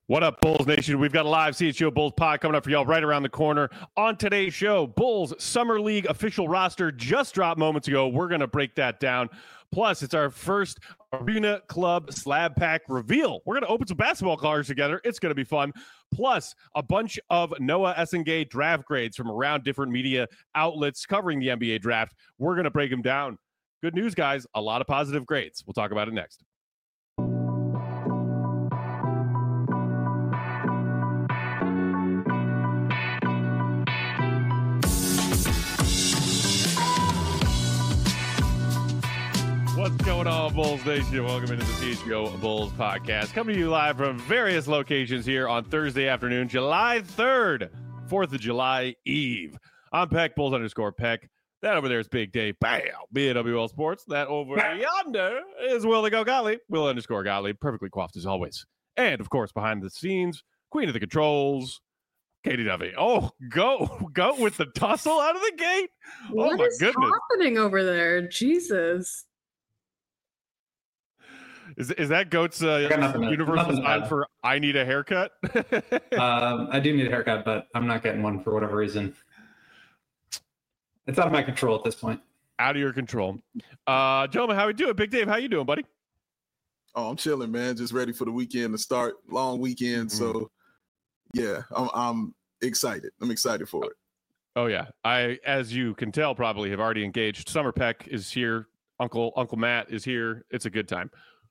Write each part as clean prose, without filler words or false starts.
What up, Bulls Nation? We've got a live CHGO Bulls pod coming up for y'all right around the corner. On today's show, Bulls Summer League official roster just dropped moments ago. We're going to break that down. Plus, it's our first Arena Club slab pack reveal. We're going to open some basketball cards together. It's going to be fun. Plus, a bunch of Noah Essengay draft grades from around different media outlets covering the NBA draft. We're going to break them down. Good news, guys. A lot of positive grades. We'll talk about it next. What's going on, Bulls Nation? Welcome into the CHGO Bulls podcast. Coming to you live from various locations here on Thursday afternoon, July 3rd, 4th of July Eve. I'm Peck, Bulls _ Peck. That over there is Big Dave, bam, BWL Sports. That over yonder is Will Gottlieb, Will _ Gottlieb, perfectly coiffed as always. And, of course, behind the scenes, Queen of the Controls, Katie Duffy. Oh, go with the tussle out of the gate. What is happening over there? Jesus. Is that Goat's universal sign for I need a haircut? I do need a haircut, but I'm not getting one for whatever reason. It's out of my control at this point. Out of your control. Gentlemen, how we doing? Big Dave, how you doing, buddy? Oh, I'm chilling, man. Just ready for the weekend to start. Long weekend. Mm-hmm. So, yeah, I'm excited. I'm excited for it. Oh, yeah. I, as you can tell, probably have already engaged. Summer Peck is here. Uncle Matt is here. It's a good time.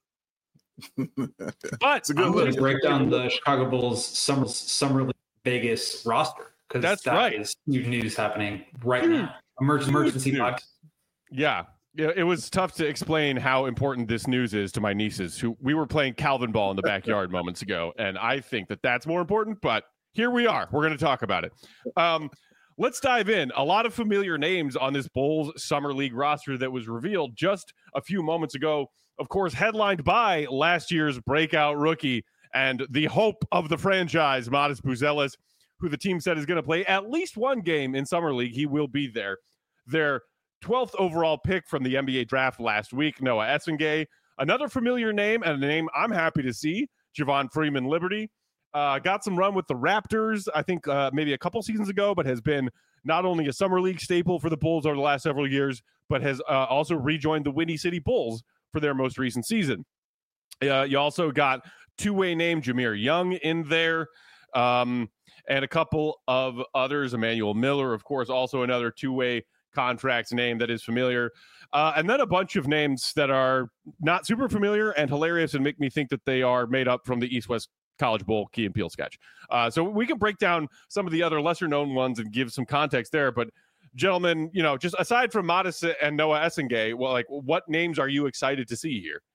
But it's a good look. Break down the Chicago Bulls summer league Vegas roster because that's right. Is huge news happening right now. Emergency podcast. Yeah, it was tough to explain how important this news is to my nieces. Who we were playing Calvin ball in the backyard moments ago, and I think that that's more important. But here we are. We're going to talk about it. Let's dive in. A lot of familiar names on this Bulls Summer League roster that was revealed just a few moments ago. Of course, headlined by last year's breakout rookie and the hope of the franchise, Matas Buzelis, who the team said is going to play at least one game in Summer League. He will be there. Their 12th overall pick from the NBA draft last week, Noah Essengay. Another familiar name and a name I'm happy to see, Javon Freeman-Liberty. Got some run with the Raptors, I think maybe a couple seasons ago, but has been not only a Summer League staple for the Bulls over the last several years, but has also rejoined the Windy City Bulls for their most recent season. You also got two-way name Jameer Young in there, and a couple of others. Emmanuel Miller, of course, also another two-way contract name that is familiar. And then a bunch of names that are not super familiar and hilarious and make me think that they are made up from the East-West College Bowl Key and Peele sketch. So we can break down some of the other lesser-known ones and give some context there, but gentlemen, just aside from Matas and Noah Essengay, what names are you excited to see here?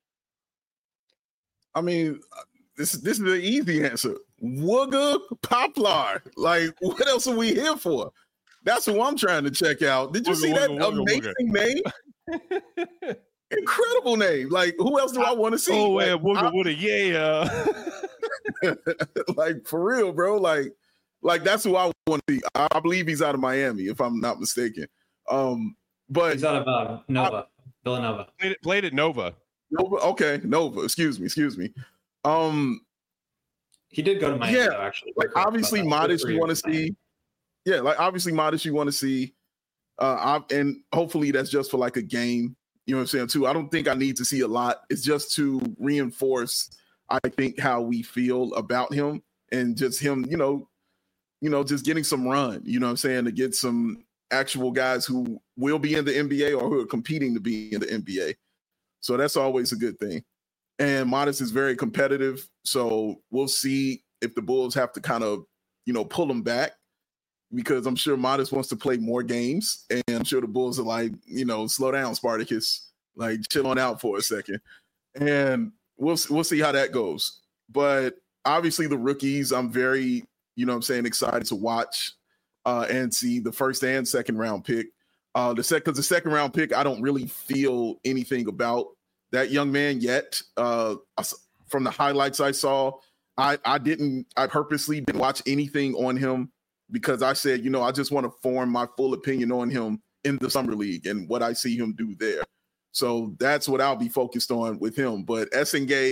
I mean, this is the easy answer. Wooga Poplar. Like, what else are we here for? That's who I'm trying to check out. Did you see that amazing name? Incredible name. Like, who else do I want to see? Oh, yeah, Wooga, yeah. Like, for real, bro. Like that's who I want to see. I believe he's out of Miami, if I'm not mistaken. But he's out of Nova, Villanova. Played at Nova. Nova, okay, Nova. Excuse me. He did go to Miami, though, actually. Like obviously, Matas you want to see. Yeah, like obviously, Matas you want to see. And hopefully that's just for like a game. You know what I'm saying? Too. I don't think I need to see a lot. It's just to reinforce, I think, how we feel about him and just him. Just getting some run, you know what I'm saying, to get some actual guys who will be in the NBA or who are competing to be in the NBA. So that's always a good thing. And Matas is very competitive. So we'll see if the Bulls have to kind of, pull him back because I'm sure Matas wants to play more games. And I'm sure the Bulls are like, slow down, Spartacus, like chill on out for a second. And we'll see how that goes. But obviously the rookies, I'm very, excited to watch and see the first and second round pick. The second round pick, I don't really feel anything about that young man yet. From the highlights I saw, I purposely didn't watch anything on him because I said, I just want to form my full opinion on him in the Summer League and what I see him do there. So that's what I'll be focused on with him. But Essengay,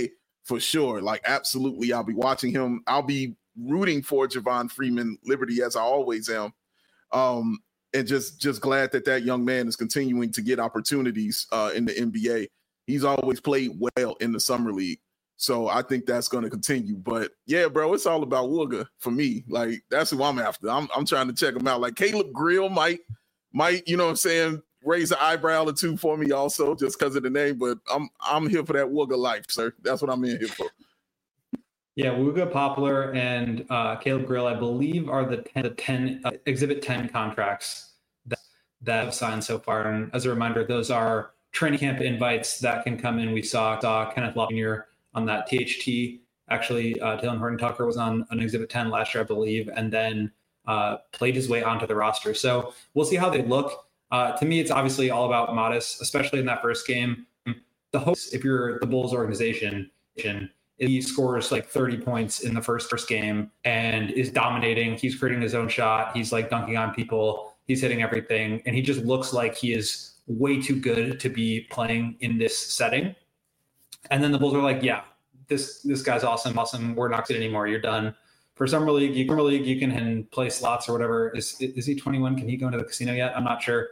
for sure. Like, absolutely, I'll be watching him. I'll be rooting for Javon Freeman Liberty, as I always am. And just glad that young man is continuing to get opportunities in the NBA. He's always played well in the summer league. So I think that's going to continue. But yeah, bro, it's all about Wooga for me. Like, that's who I'm after. I'm trying to check him out. Like, Caleb Grill might, you know what I'm saying, raise an eyebrow or two for me also, just because of the name. But I'm here for that Wooga life, sir. That's what I'm in here for. Yeah, Wooga, Poplar, and Caleb Grill, I believe, are the 10 Exhibit 10 contracts that have signed so far. And as a reminder, those are training camp invites that can come in. We saw Kenneth Love Jr. on that THT. Actually, Taylor Horton Tucker was on an Exhibit 10 last year, I believe, and then played his way onto the roster. So we'll see how they look. To me, it's obviously all about Modest, especially in that first game. The hopes, if you're the Bulls organization, he scores like 30 points in the first game and is dominating. He's creating his own shot. He's like dunking on people. He's hitting everything. And he just looks like he is way too good to be playing in this setting. And then the Bulls are like, yeah, this guy's awesome. We're not good anymore. You're done. For Summer League, you can play slots or whatever. Is he 21? Can he go into the casino yet? I'm not sure.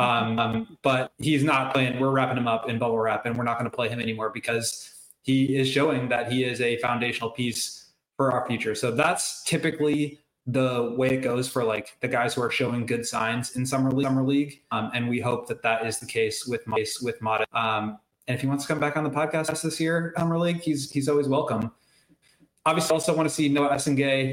But he's not playing. We're wrapping him up in bubble wrap, and we're not going to play him anymore because he is showing that he is a foundational piece for our future. So that's typically the way it goes for like the guys who are showing good signs in summer league. And we hope that is the case with Modest. And if he wants to come back on the podcast this year, summer league, he's always welcome. Obviously, also want to see Noah Essengay,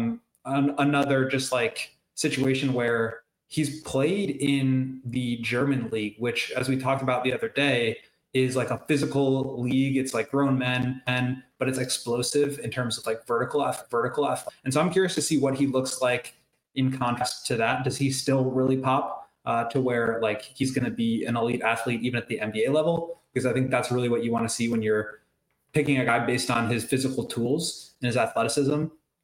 another just like situation where he's played in the German league, which, as we talked about the other day, is like a physical league. It's like grown men, but it's explosive in terms of like vertical. And so I'm curious to see what he looks like in contrast to that. Does he still really pop to where like he's going to be an elite athlete even at the NBA level? Because I think that's really what you want to see when you're picking a guy based on his physical tools and his athleticism.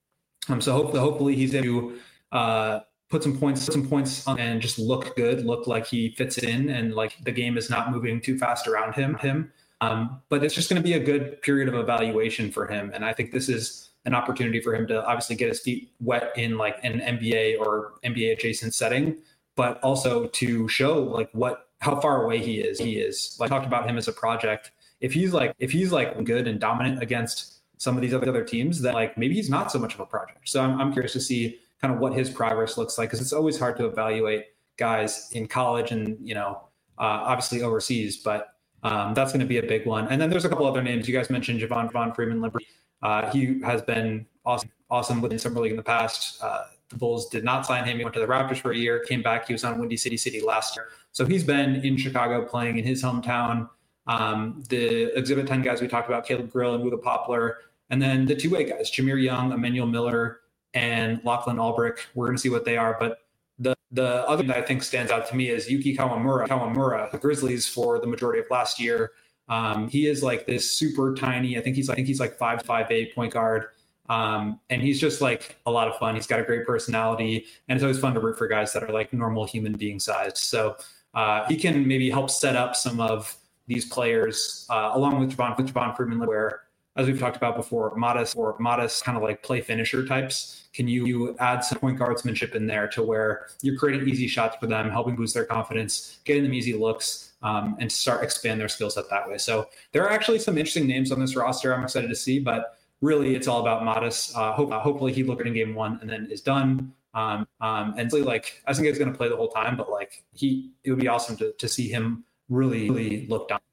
So hopefully he's able to put some points on and just look good, look like he fits in and like the game is not moving too fast around him. But it's just going to be a good period of evaluation for him. And I think this is an opportunity for him to obviously get his feet wet in like an NBA or NBA adjacent setting, but also to show like how far away he is. Like I talked about him as a project. If he's like good and dominant against some of these other teams, then like maybe he's not so much of a project. So I'm curious to see kind of what his progress looks like, because it's always hard to evaluate guys in college and, obviously overseas, but that's going to be a big one. And then there's a couple other names. You guys mentioned Javon Freeman Liberty. He has been awesome within Summer League in the past. The Bulls did not sign him. He went to the Raptors for a year, came back. He was on Windy City last year. So he's been in Chicago playing in his hometown. The Exhibit 10 guys we talked about, Caleb Grill and Wooga Poplar. And then the two-way guys, Jameer Young, Emmanuel Miller, and Lachlan Ulbrich. We're going to see what they are. But the other thing that I think stands out to me is Yuki Kawamura, the Grizzlies for the majority of last year. He is like this super tiny, I think he's like 5'8" point guard. And he's just like a lot of fun. He's got a great personality, and it's always fun to root for guys that are like normal human being sized. So he can maybe help set up some of these players along with Javon Freeman, where, as we've talked about before, modest kind of like play finisher types. Can you add some point guardsmanship in there to where you're creating easy shots for them, helping boost their confidence, getting them easy looks, and start expand their skill set that way. So there are actually some interesting names on this roster I'm excited to see, but really it's all about Modest. Hopefully he looked in game one and then is done. And so like, I think he's going to play the whole time, but like it would be awesome to see him really look down.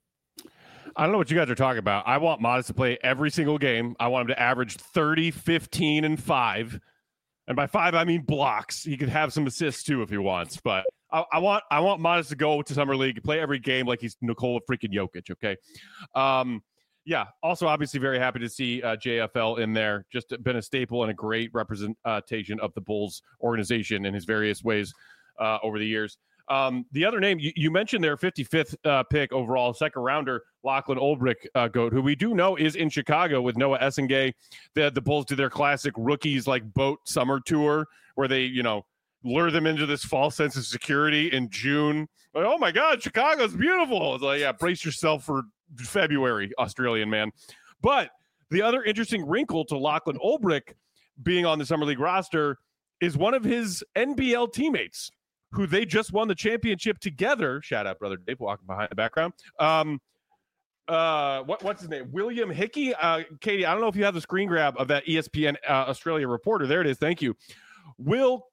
I don't know what you guys are talking about. I want Modest to play every single game. I want him to average 30, 15, and 5. And by 5, I mean blocks. He could have some assists too if he wants. But I want Modest to go to Summer League, play every game like he's Nikola freaking Jokic, okay? Yeah, also obviously very happy to see JFL in there. Just been a staple and a great representation of the Bulls organization in his various ways over the years. The other name, you mentioned their 55th pick overall, second rounder, Lachlan Ulbrich, GOAT, who we do know is in Chicago with Noah Essengay. The Bulls do their classic rookies like boat summer tour where they, lure them into this false sense of security in June. Like, oh my God, Chicago's beautiful. It's like, yeah, brace yourself for February, Australian man. But the other interesting wrinkle to Lachlan Olbrich being on the Summer League roster is one of his NBL teammates who they just won the championship together. Shout out, brother Dave, walking behind the background. What's his name? William Hickey. Katie, I don't know if you have the screen grab of that ESPN Australia reporter. There it is. Thank you. Will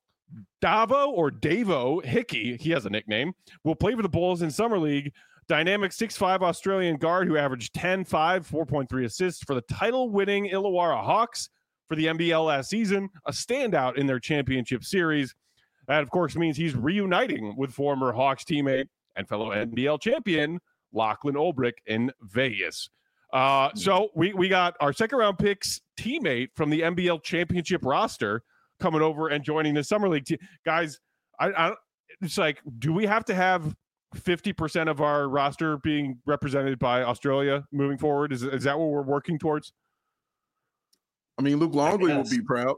Davo Hickey, he has a nickname, will play for the Bulls in Summer League. Dynamic 6'5" Australian guard who averaged 10-5, 4.3 assists for the title-winning Illawarra Hawks for the NBL last season, a standout in their championship series. That, of course, means he's reuniting with former Hawks teammate and fellow NBL champion Lachlan Olbrich in Vegas. So we got our second-round picks teammate from the NBL championship roster coming over and joining the Summer League team. Guys, it's like, do we have to have 50% of our roster being represented by Australia moving forward? Is that what we're working towards? I mean, Luke Longley will be proud.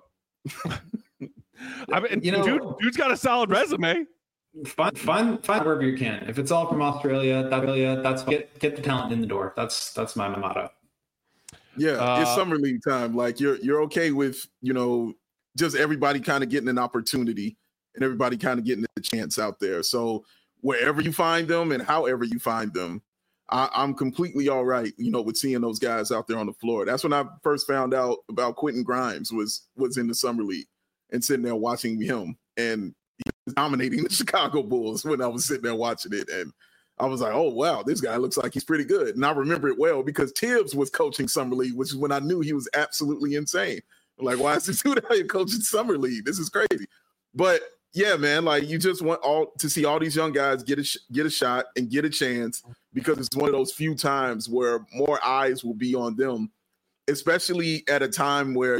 I mean, dude's got a solid resume. Find wherever you can. If it's all from Australia, that's get the talent in the door. That's my motto. Yeah, it's Summer League time. Like you're okay with, just everybody kind of getting an opportunity and everybody kind of getting a chance out there. So wherever you find them and however you find them, I'm completely all right, with seeing those guys out there on the floor. That's when I first found out about Quentin Grimes was in the Summer League and sitting there watching him. And he was dominating the Chicago Bulls when I was sitting there watching it. And I was like, oh, wow, this guy looks like he's pretty good. And I remember it well because Tibbs was coaching Summer League, which is when I knew he was absolutely insane. I'm like, why is this dude out here coaching Summer League? This is crazy. But yeah, man, like you just want to see all these young guys get a shot and get a chance because it's one of those few times where more eyes will be on them, especially at a time where,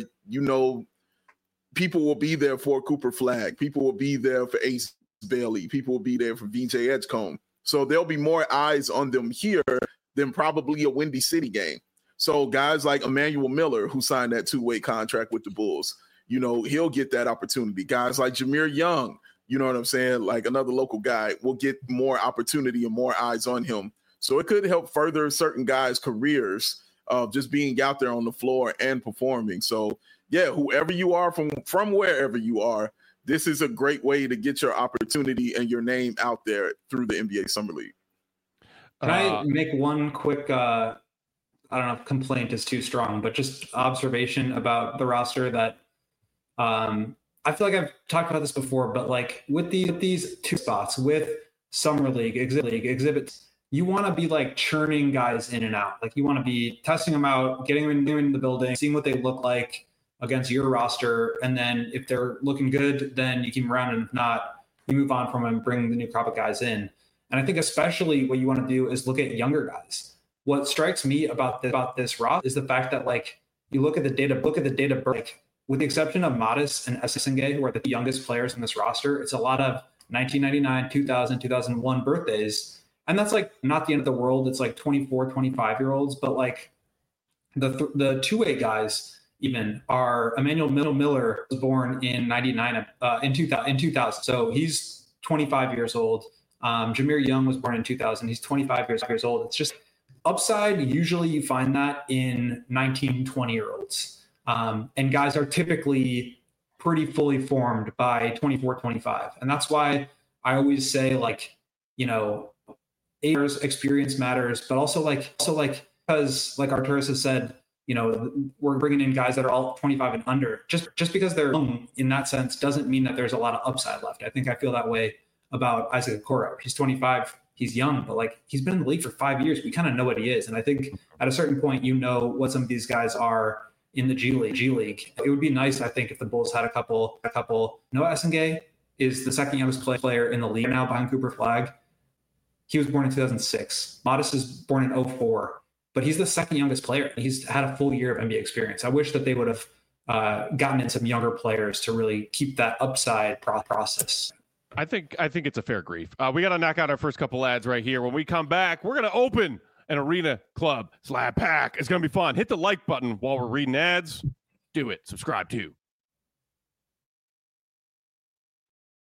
people will be there for Cooper Flagg. People will be there for Ace Bailey. People will be there for VJ Edgecombe. So there'll be more eyes on them here than probably a Windy City game. So guys like Emmanuel Miller, who signed that 2-way contract with the Bulls, he'll get that opportunity. Guys like Jameer Young, you know what I'm saying? Like another local guy will get more opportunity and more eyes on him. So it could help further certain guys' careers of just being out there on the floor and performing. So yeah, whoever you are from wherever you are, this is a great way to get your opportunity and your name out there through the NBA Summer League. Can I make one quick, I don't know if complaint is too strong, but just observation about the roster that I feel like I've talked about this before, but like with these two spots, with Summer League, exhibits, you want to be like churning guys in and out. Like you want to be testing them out, getting them in the building, seeing what they look like against your roster. And then if they're looking good, then you keep them around. And if not, you move on from them and bring the new crop of guys in. And I think especially what you want to do is look at younger guys. What strikes me about this roster is the fact that like you look at the data, like with the exception of Modest and Essengay, who are the youngest players in this roster, it's a lot of 1999, 2000, 2001 birthdays. And that's like not the end of the world. It's like 24, 25-year-olds. But like the two-way guys even are Emmanuel Miller was born in 99, in 2000. So he's 25 years old. Jameer Young was born in 2000. He's 25 years old. It's just upside. Usually you find that in 19, 20-year-olds. And guys are typically pretty fully formed by 24, 25. And that's why I always say like, experience matters, but also because like Arturas has said, we're bringing in guys that are all 25 and under. Just because they're young in that sense doesn't mean that there's a lot of upside left. I think I feel that way about Isaac Okoro. He's 25, he's young, but like he's been in the league for 5 years. We kind of know what he is. And I think at a certain point, what some of these guys are in the G League. It would be nice, I think, if the Bulls had a couple. Noah Essengay is the second youngest player in the league now behind Cooper Flagg. He was born in 2006. Modest is born in 2004, but he's the second youngest player. He's had a full year of NBA experience. I wish that they would have gotten in some younger players to really keep that upside process. I think it's a fair grief. We got to knock out our first couple ads right here. When we come back, we're going to open an arena club slab pack. It's going to be fun. Hit the like button while we're reading ads. Do it. Subscribe too.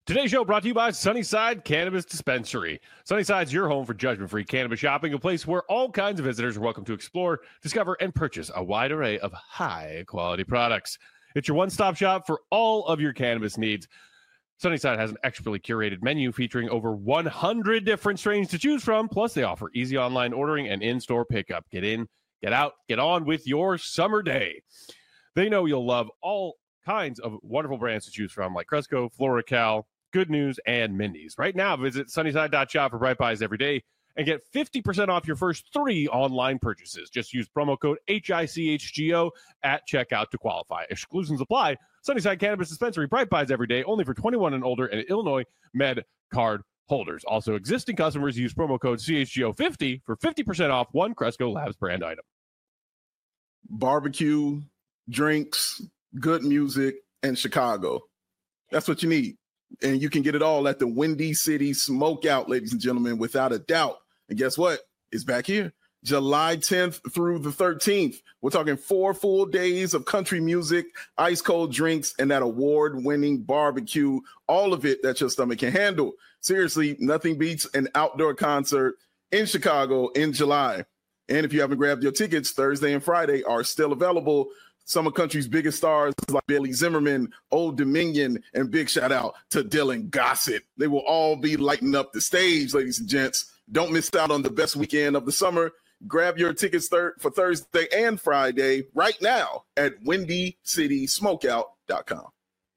Today's show brought to you by Sunnyside Cannabis Dispensary. Sunnyside's your home for judgment-free cannabis shopping, a place where all kinds of visitors are welcome to explore, discover, and purchase a wide array of high-quality products. It's your one-stop shop for all of your cannabis needs. Sunnyside has an expertly curated menu featuring over 100 different strains to choose from, plus they offer easy online ordering and in-store pickup. Get in, get out, get on with your summer day. They know you'll love all kinds of wonderful brands to choose from, like Cresco, FloraCal, Good News, and Mindy's. Right now, visit sunnyside.shop for Bright Buys every day and get 50% off your first 3 online purchases. Just use promo code HICHGO at checkout to qualify. Exclusions apply. Sunnyside Cannabis Dispensary, Bright Buys every day, only for 21 and older and Illinois Med card holders. Also, existing customers use promo code CHGO50 for 50% off one Cresco Labs brand item. Barbecue, drinks, good music, and Chicago. That's what you need. And you can get it all at the Windy City Smokeout, ladies and gentlemen, without a doubt. And guess what? It's back here. July 10th through the 13th. We're talking 4 full days of country music, ice cold drinks, and that award-winning barbecue. All of it that your stomach can handle. Seriously, nothing beats an outdoor concert in Chicago in July. And if you haven't grabbed your tickets, Thursday and Friday are still available. Some of country's biggest stars like Billy Zimmerman, Old Dominion, and big shout out to Dylan Gossett. They will all be lighting up the stage, ladies and gents. Don't miss out on the best weekend of the summer. Grab your tickets for Thursday and Friday right now at WindyCitySmokeout.com.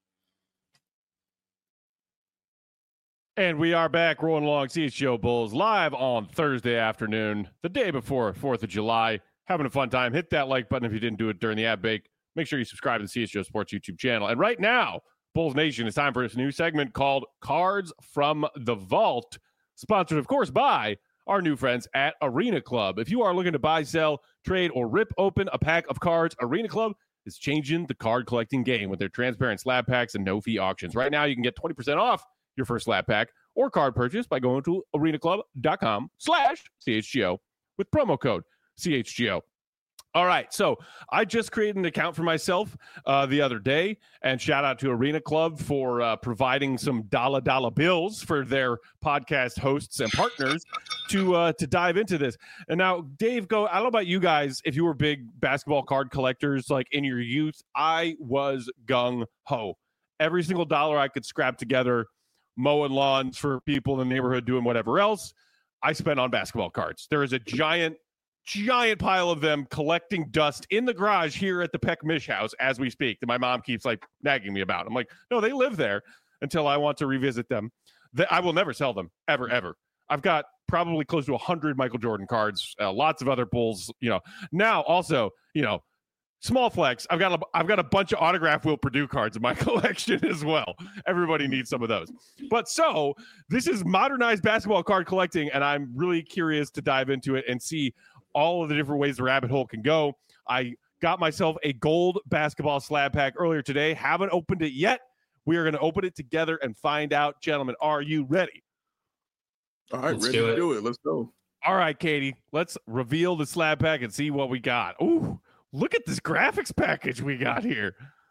And we are back rolling along CHGO Bulls live on Thursday afternoon, the day before 4th of July. Having a fun time. Hit that like button if you didn't do it during the ad break. Make sure you subscribe to the CHGO Sports YouTube channel. And right now, Bulls Nation, it's time for this new segment called Cards from the Vault, sponsored, of course, by our new friends at Arena Club. If you are looking to buy, sell, trade, or rip open a pack of cards, Arena Club is changing the card collecting game with their transparent slab packs and no-fee auctions. Right now, you can get 20% off your first slab pack or card purchase by going to arenaclub.com/CHGO with promo code CHGO. All right, so I just created an account for myself the other day, and shout out to Arena Club for providing some dollar bills for their podcast hosts and partners to dive into this. And now, Dave, I don't know about you guys, if you were big basketball card collectors like in your youth. I was gung-ho. Every single dollar I could scrap together, mowing lawns for people in the neighborhood, doing whatever else, I spent on basketball cards. There is a giant pile of them collecting dust in the garage here at the Peck Mish house as we speak that my mom keeps like nagging me about. I'm like, no, they live there until I want to revisit them. I will never sell them ever. I've got probably close to 100 Michael Jordan cards, lots of other Bulls, now also, small flex. I've got a bunch of autograph Will Perdue cards in my collection as well. Everybody needs some of those. But so this is modernized basketball card collecting, and I'm really curious to dive into it and see all of the different ways the rabbit hole can go. I got myself a gold basketball slab pack earlier today. Haven't opened it yet. We are going to open it together and find out. Gentlemen, are you ready? All right, ready to do it. Let's go. All right, Katie, let's reveal the slab pack and see what we got. Ooh, look at this graphics package we got here.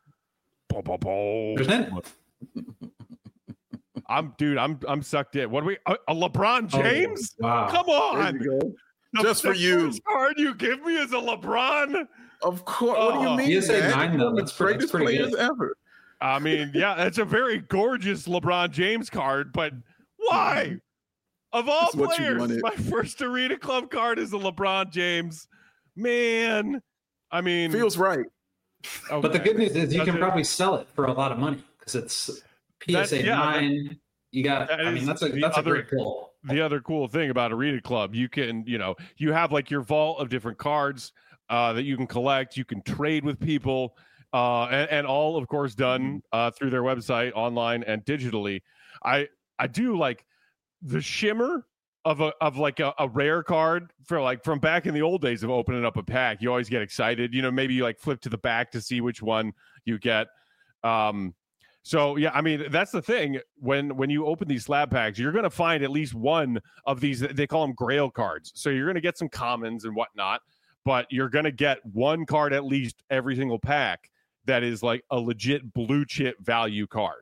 I'm sucked in. What are we? A LeBron James? Oh, wow. Come on. Just for you. The card you give me is a LeBron? Of course. What do you mean? PSA 9, though. That's pretty good. Ever. I mean, yeah, that's a very gorgeous LeBron James card, but why? Of all players, my first Arena Club card is a LeBron James. Man, I mean, feels right. Okay. But the good news is you can probably sell it for a lot of money because it's PSA 9. You got, that's a great pull. The other cool thing about Arena Club, you can, you have like your vault of different cards that you can collect. You can trade with people, and all, of course, done through their website, online and digitally. I do like the shimmer of a rare card from back in the old days of opening up a pack. You always get excited. Maybe you like flip to the back to see which one you get. So, yeah, I mean, that's the thing. When you open these slab packs, you're going to find at least one of these. They call them grail cards. So you're going to get some commons and whatnot, but you're going to get one card at least every single pack that is like a legit blue chip value card.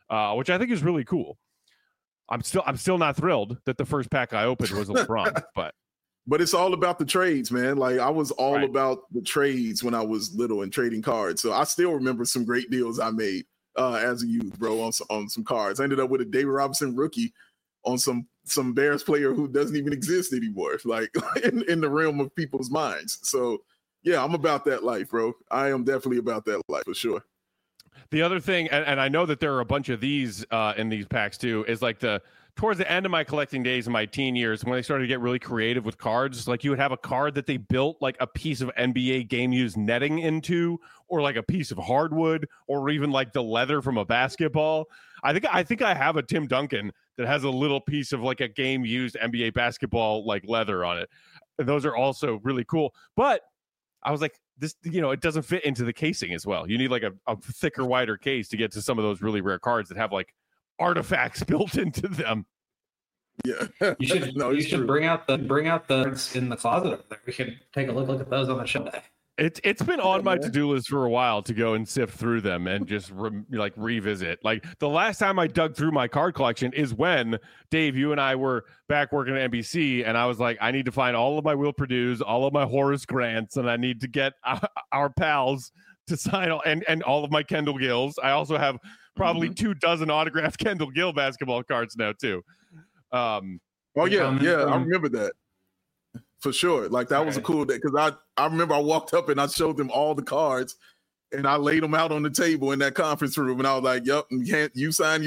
which I think is really cool. I'm still not thrilled that the first pack I opened was a LeBron, but it's all about the trades, man. Like I was all Right. about the trades when I was little and trading cards. So I still remember some great deals I made as a youth, bro, on some cards. I ended up with a David Robinson rookie on some Bears player who doesn't even exist anymore, like in the realm of people's minds. So yeah, I'm about that life, bro. I am definitely about that life for sure. The other thing, and I know that there are a bunch of these in these packs too, is like towards the end of my collecting days in my teen years, when they started to get really creative with cards, like you would have a card that they built like a piece of NBA game used netting into, or like a piece of hardwood, or even like the leather from a basketball. I think I have a Tim Duncan that has a little piece of like a game used NBA basketball like leather on it. And those are also really cool. But I was like, this, it doesn't fit into the casing as well. You need like a thicker, wider case to get to some of those really rare cards that have like artifacts built into them. Yeah, You should you should bring out the cards in the closet over there. We could take a look at those on the show day. It's been on my to-do list for a while to go and sift through them and just revisit. Like the last time I dug through my card collection is when, Dave, you and I were back working at NBC, and I was like, I need to find all of my Will Purdue's, all of my Horace Grants, and I need to get our pals to sign and all of my Kendall Gills. I also have probably 24 autographed Kendall Gill basketball cards now too. Oh yeah, I remember that. For sure. Like that was a cool day because I remember I walked up and I showed them all the cards and I laid them out on the table in that conference room and I was like, yep, you sign.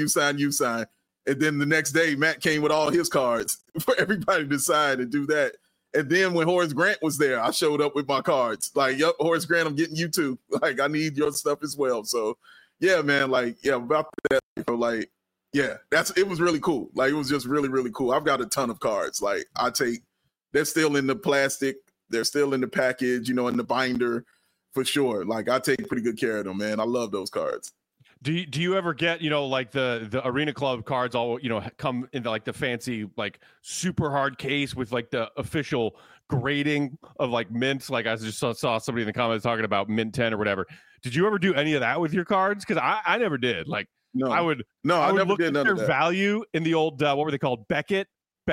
And then the next day, Matt came with all his cards for everybody to sign and do that. And then when Horace Grant was there, I showed up with my cards. Like, yep, Horace Grant, I'm getting you too. Like, I need your stuff as well. So yeah, man, like, yeah, about that, like, yeah, it was really cool. Like, it was just really, really cool. I've got a ton of cards. Like, they're still in the plastic. They're still in the package, in the binder for sure. Like I take pretty good care of them, man. I love those cards. Do you ever get, like the Arena Club cards all, come into like the fancy, like super hard case with like the official grading of like mints? Like I just saw somebody in the comments talking about mint 10 or whatever. Did you ever do any of that with your cards? Because I never did. Like I would never look did at none their of that. value in the old, what were they called? Beckett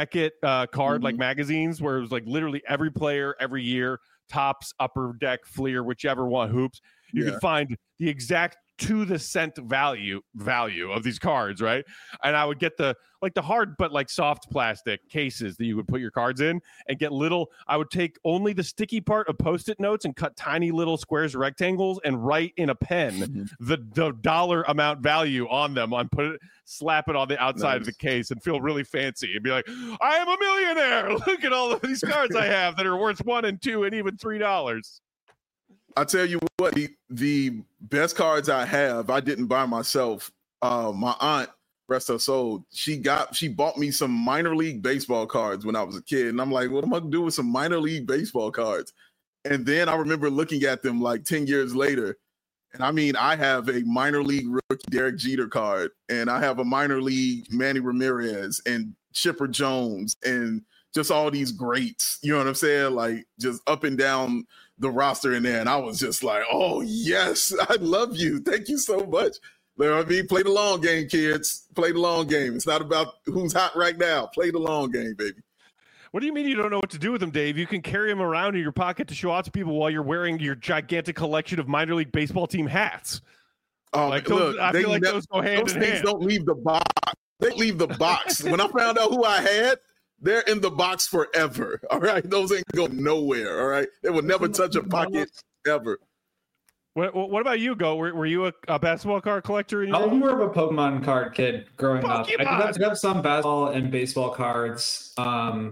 card like magazines where it was like literally every player every year, Topps, Upper Deck, Fleer, whichever one, Hoops, you could find the exact to the cent value of these cards, right? And I would get the hard but like soft plastic cases that you would put your cards in and get I would take only the sticky part of Post-it notes and cut tiny little squares, rectangles, and write in a pen the dollar amount value on them, slap it on the outside of the case and feel really fancy and be like, I am a millionaire. Look at all of these cards I have that are worth $1 and $2 and even $3. I tell you what, the best cards I have, I didn't buy myself. My aunt, rest her soul, she bought me some minor league baseball cards when I was a kid. And I'm like, what am I gonna do with some minor league baseball cards? And then I remember looking at them like 10 years later. And I mean, I have a minor league rookie Derek Jeter card, and I have a minor league Manny Ramirez and Chipper Jones and just all these greats, you know what I'm saying? Like just up and down the roster in there. And I was just like, oh yes, I love you. Thank you so much. You know what I mean? Play the long game, kids. Play the long game. It's not about who's hot right now. Play the long game, baby. What do you mean you don't know what to do with them, Dave? You can carry them around in your pocket to show out to people while you're wearing your gigantic collection of minor league baseball team hats. Look, I feel like those go hand in hand. Those things don't leave the box. They leave the box. When I found out who I had, they're in the box forever. All right. Those ain't going nowhere. All right. They will never touch a pocket ever. What about you, Go? Were you a basketball card collector? I was more of a Pokemon card kid growing up. I did have some basketball and baseball cards. I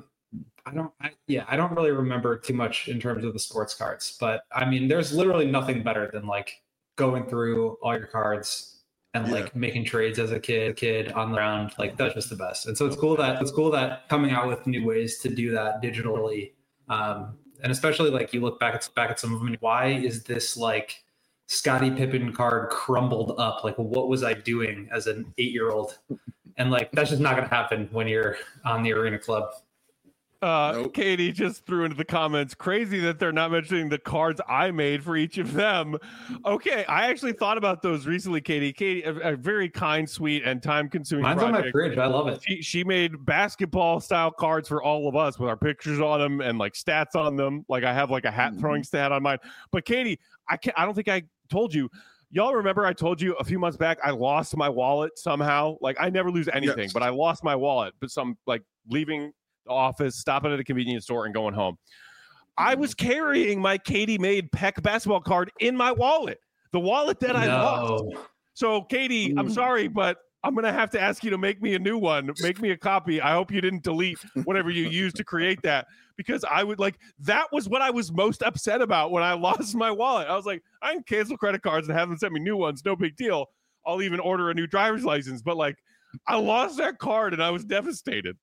don't really remember too much in terms of the sports cards, but I mean, there's literally nothing better than like going through all your cards and like making trades as a kid on the ground. Like that's just the best. And so it's cool that coming out with new ways to do that digitally. And especially like you look back at some of them. Why is this like Scottie Pippen card crumbled up? Like what was I doing as an 8-year-old? And like that's just not going to happen when you're on the Arena Club. Nope. Katie just threw into the comments, crazy that they're not mentioning the cards I made for each of them. Okay, I actually thought about those recently, Katie. Katie, a very kind, sweet, and time-consuming Mine's project. on my fridge. I love it. She made basketball-style cards for all of us with our pictures on them and like stats on them. Like I have like a hat-throwing stat on mine. But Katie, I don't think I told you. Y'all remember I told you a few months back I lost my wallet somehow? Like I never lose anything, but I lost my wallet. But some like leaving the office, stopping at a convenience store, and going home. I was carrying my Katie made Peck basketball card in my wallet, the wallet that I lost. So, Katie, I'm sorry, but I'm going to have to ask you to make me a new one. Make me a copy. I hope you didn't delete whatever you used to create that, because I would like, that was what I was most upset about when I lost my wallet. I was like, I can cancel credit cards and have them send me new ones. No big deal. I'll even order a new driver's license. But like, I lost that card and I was devastated.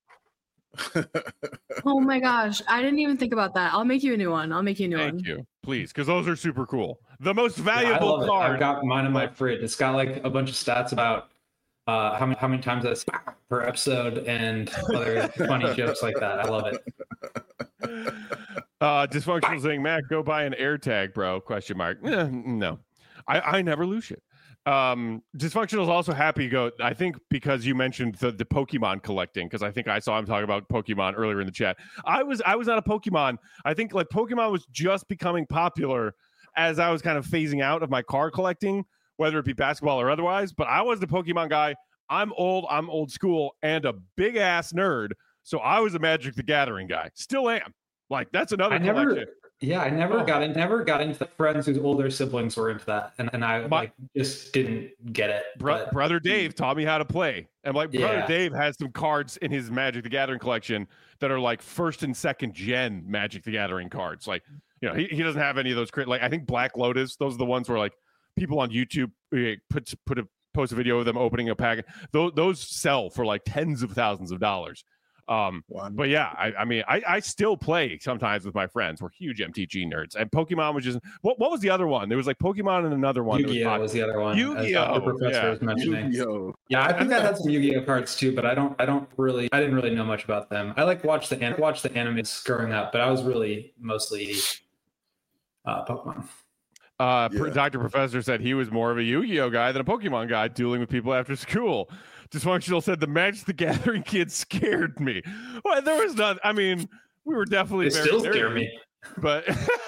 Oh my gosh, I didn't even think about that. I'll make you a new one. Thank you, please, because those are super cool. The most valuable card. I've got mine in my fridge. It's got like a bunch of stats about how many times I say per episode and other funny jokes like that. I love it. Dysfunctional saying, Matt, go buy an AirTag, bro? ? No, I never lose shit. Dysfunctional is also happy to go, I think, because you mentioned the Pokemon collecting, because I think I saw him talking about Pokemon earlier in the chat. I was not a Pokemon. I think like Pokemon was just becoming popular as I was kind of phasing out of my card collecting, whether it be basketball or otherwise. But I was the Pokemon guy. I'm old school and a big ass nerd. So I was a Magic the Gathering guy. Still am. Like that's another collection. I never got into the friends whose older siblings were into that, and I just didn't get it. Brother Dave taught me how to play, and like Brother Dave has some cards in his Magic the Gathering collection that are like first and second gen Magic the Gathering cards. Like, you know, he doesn't have any of those. Like I think Black Lotus, those are the ones where like people on YouTube post a video of them opening a pack. Those sell for like tens of thousands of dollars. But yeah, I mean, I still play sometimes with my friends. We're huge MTG nerds, and Pokemon was just what was the other one? There was like Pokemon and another one. Yu-Gi-Oh was the other one. Yu-Gi-Oh, the professor was mentioning. Yu-Gi-Oh. Yeah, I think I had some Yu-Gi-Oh cards too, but I didn't really know much about them. I like watch the animes growing up, but I was really mostly Pokemon. Dr. Professor said he was more of a Yu-Gi-Oh guy than a Pokemon guy, dueling with people after school. Dysfunctional said the Magic the Gathering kids scared me. Well, there was not. I mean, we were definitely. They still scare me, but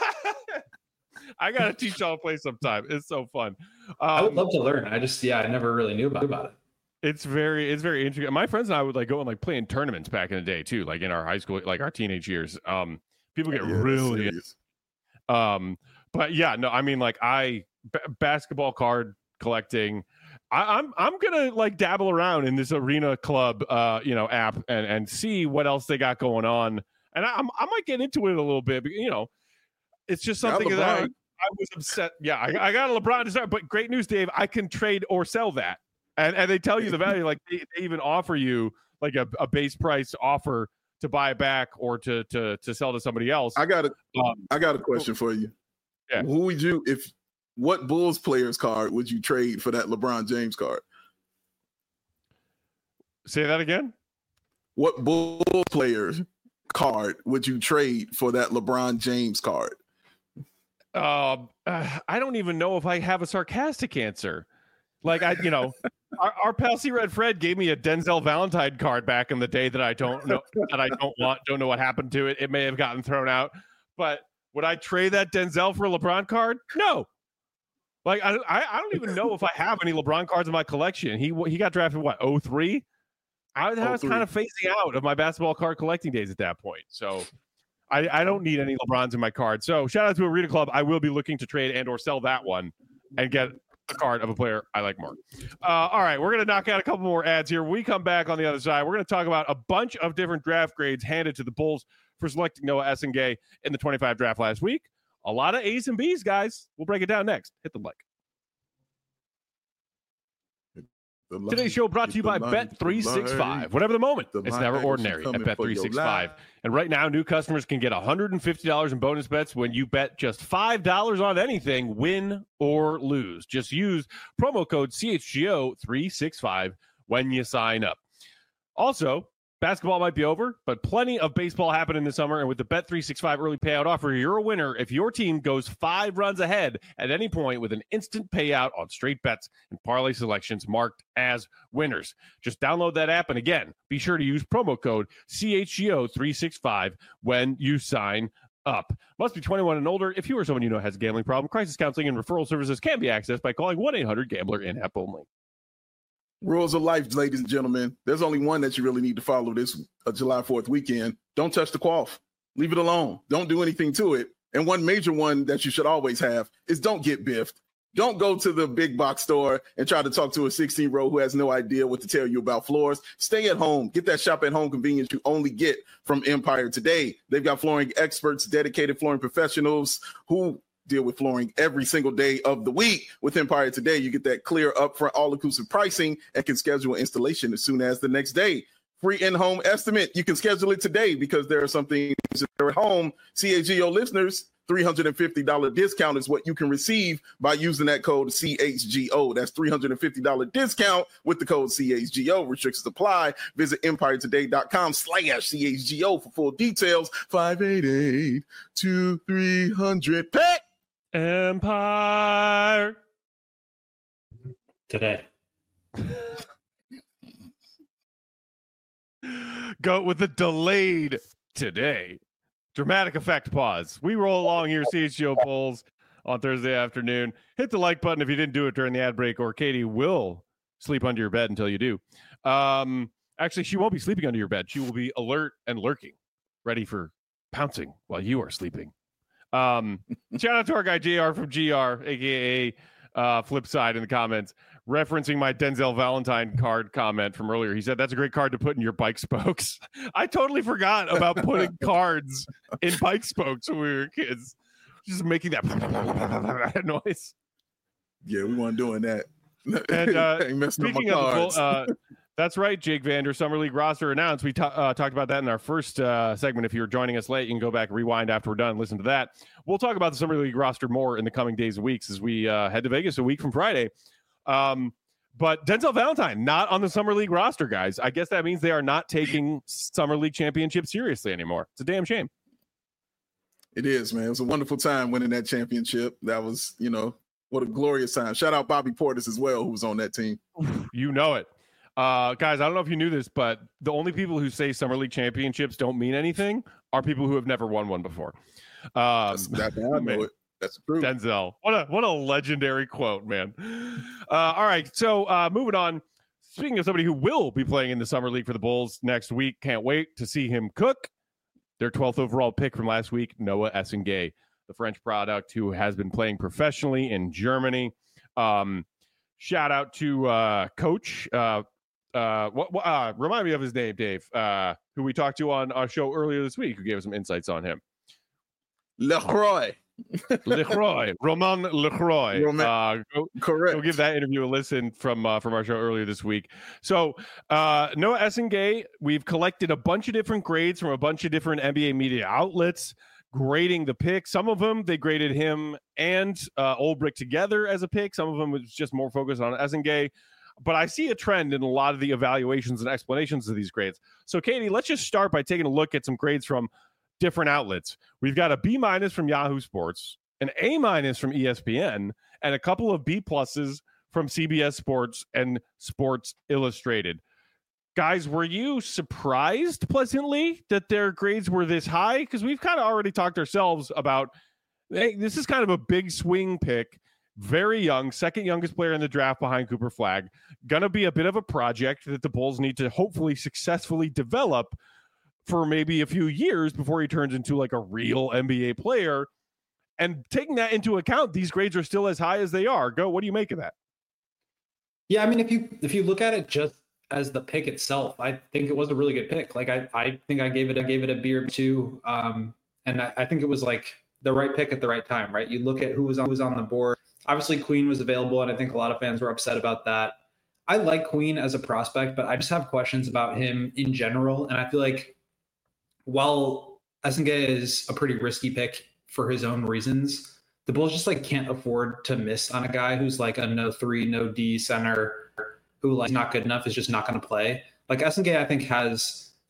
I gotta teach y'all to play sometime. It's so fun. I would love to learn. I never really knew about it. It's very interesting. My friends and I would like go and like play in tournaments back in the day too, like in our high school, like our teenage years. People get really. But yeah, no, I mean, like basketball card collecting. I'm gonna like dabble around in this Arena Club app and see what else they got going on, and I might get into it a little bit, but, it's just something that I was upset. Yeah, I got a LeBron to start, but great news, Dave, I can trade or sell that, and they tell you the value, like they even offer you like a base price offer to buy it back or to sell to somebody else. I got a question for you. Yeah. Who would you what Bulls player's card would you trade for that LeBron James card? Say that again. What Bulls player's card would you trade for that LeBron James card? I don't even know if I have a sarcastic answer. Like our pal C Red Fred gave me a Denzel Valentine card back in the day that I don't know don't know what happened to it. It may have gotten thrown out, but would I trade that Denzel for a LeBron card? No. Like I don't even know if I have any LeBron cards in my collection. He got drafted what, 2003? I was kind of phasing out of my basketball card collecting days at that point. So I don't need any LeBrons in my card. So shout out to Arena Club. I will be looking to trade and or sell that one and get a card of a player I like more. All right, we're going to knock out a couple more ads here. When we come back on the other side, we're going to talk about a bunch of different draft grades handed to the Bulls for selecting Noah Essengay in the 25 draft last week. A lot of A's and B's, guys. We'll break it down next. Hit the like. Today's show brought to you by Bet365. Whatever the moment, it's never ordinary at Bet365. And right now, new customers can get $150 in bonus bets when you bet just $5 on anything, win or lose. Just use promo code CHGO365 when you sign up. Also, Basketball might be over, but plenty of baseball happening this summer. And with the Bet365 early payout offer, you're a winner if your team goes 5 runs ahead at any point with an instant payout on straight bets and parlay selections marked as winners. Just download that app. And again, be sure to use promo code CHGO365 when you sign up. Must be 21 and older. If you or someone you know has a gambling problem, crisis counseling and referral services can be accessed by calling 1-800-GAMBLER in-app only. Rules of life, ladies and gentlemen. There's only one that you really need to follow this July 4th weekend. Don't touch the quaff. Leave it alone. Don't do anything to it. And one major one that you should always have is don't get biffed. Don't go to the big box store and try to talk to a 16-year-old who has no idea what to tell you about floors. Stay at home. Get that shop at home convenience you only get from Empire Today. They've got flooring experts, dedicated flooring professionals who deal with flooring every single day of the week. With Empire Today, you get that clear upfront all-inclusive pricing and can schedule installation as soon as the next day. Free in-home estimate. You can schedule it today because there are some things that are at home. CHGO listeners, $350 discount is what you can receive by using that code CHGO. That's $350 discount with the code CHGO. Restrictions apply. Visit empirettoday.com/CHGO for full details. 588-2300. Pet Empire Today. Go with the delayed today. Dramatic effect pause. We roll along here, CHGO polls on Thursday afternoon. Hit the like button if you didn't do it during the ad break, or Katie will sleep under your bed until you do. Actually, she won't be sleeping under your bed. She will be alert and lurking, ready for pouncing while you are sleeping. Shout out to our guy JR from GR, aka Flipside, in the comments, referencing my Denzel Valentine card comment from earlier. He said that's a great card to put in your bike spokes. I totally forgot about putting cards in bike spokes when we were kids. Just making that noise. Yeah, we weren't doing that. And speaking of the that's right, Jake Vander, Summer League roster announced. We talked about that in our first segment. If you're joining us late, you can go back, rewind after we're done, listen to that. We'll talk about the Summer League roster more in the coming days and weeks as we head to Vegas a week from Friday. But Denzel Valentine, not on the Summer League roster, guys. I guess that means they are not taking Summer League championship seriously anymore. It's a damn shame. It is, man. It was a wonderful time winning that championship. That was, what a glorious time. Shout out Bobby Portis as well, who was on that team. You know it. Guys, I don't know if you knew this, but the only people who say Summer League championships don't mean anything are people who have never won one before. I know it. That's true. Denzel. What a legendary quote, man. All right. So moving on. Speaking of somebody who will be playing in the Summer League for the Bulls next week, can't wait to see him cook. Their 12th overall pick from last week, Noah Essengay, the French product who has been playing professionally in Germany. Shout out to Coach. Remind me of his name, Dave, who we talked to on our show earlier this week, who gave us some insights on him. Lecroix. Romain Lecroix. Correct. We'll give that interview a listen from our show earlier this week. So Noah Essengay, we've collected a bunch of different grades from a bunch of different NBA media outlets, grading the pick. Some of them, they graded him and Olbrich together as a pick. Some of them was just more focused on Essengay. But I see a trend in a lot of the evaluations and explanations of these grades. So, Katie, let's just start by taking a look at some grades from different outlets. We've got a B- from Yahoo Sports, an A- from ESPN, and a couple of B+ from CBS Sports and Sports Illustrated. Guys, were you surprised pleasantly that their grades were this high? Because we've kind of already talked ourselves about, hey, this is kind of a big swing pick. Very young, second youngest player in the draft behind Cooper Flagg. Gonna be a bit of a project that the Bulls need to hopefully successfully develop for maybe a few years before he turns into like a real NBA player. And taking that into account, these grades are still as high as they are. What do you make of that? Yeah, I mean, if you look at it just as the pick itself, I think it was a really good pick. Like I think I gave it a B or two. And I think it was like the right pick at the right time, right? You look at who was on the board. Obviously, Queen was available, and I think a lot of fans were upset about that. I like Queen as a prospect, but I just have questions about him in general. And I feel like while Essengay is a pretty risky pick for his own reasons, the Bulls just like can't afford to miss on a guy who's like a no 3, no D center who like not good enough, is just not going to play. Like Essengay, I think has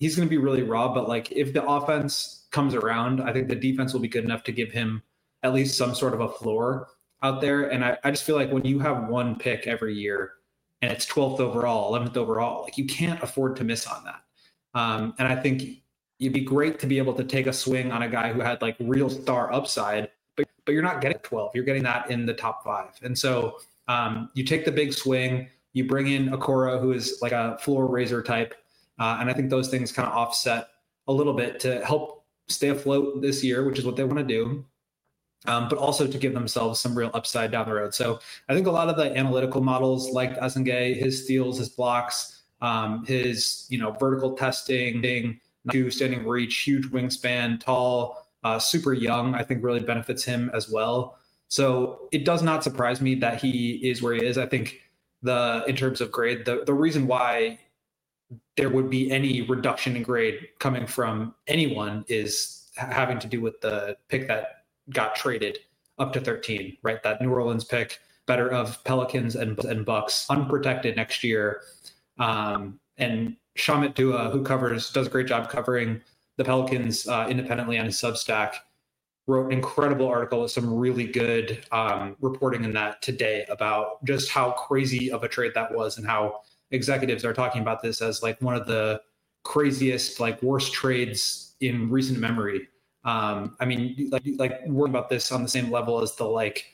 he's going to be really raw, but like if the offense comes around, I think the defense will be good enough to give him at least some sort of a floor out there. And I just feel like when you have one pick every year and it's 12th overall, 11th overall, like you can't afford to miss on that. And I think it'd be great to be able to take a swing on a guy who had like real star upside, but you're not getting 12. You're getting that in the top 5. And so you take the big swing, you bring in Okoro, who is like a floor raiser type. And I think those things kind of offset a little bit to help stay afloat this year, which is what they want to do. But also to give themselves some real upside down the road. So I think a lot of the analytical models like Asenge, his steals, his blocks, his vertical testing, standing reach, huge wingspan, tall, super young, I think really benefits him as well. So it does not surprise me that he is where he is. I think in terms of grade, the reason why there would be any reduction in grade coming from anyone is having to do with the pick that got traded up to 13, right? That New Orleans pick, better of Pelicans and Bucks, unprotected next year. And Shamit Dua, who does a great job covering the Pelicans independently on his Substack, wrote an incredible article with some really good reporting in that today about just how crazy of a trade that was and how executives are talking about this as like one of the craziest, like worst trades in recent memory. I mean, like worrying about this on the same level as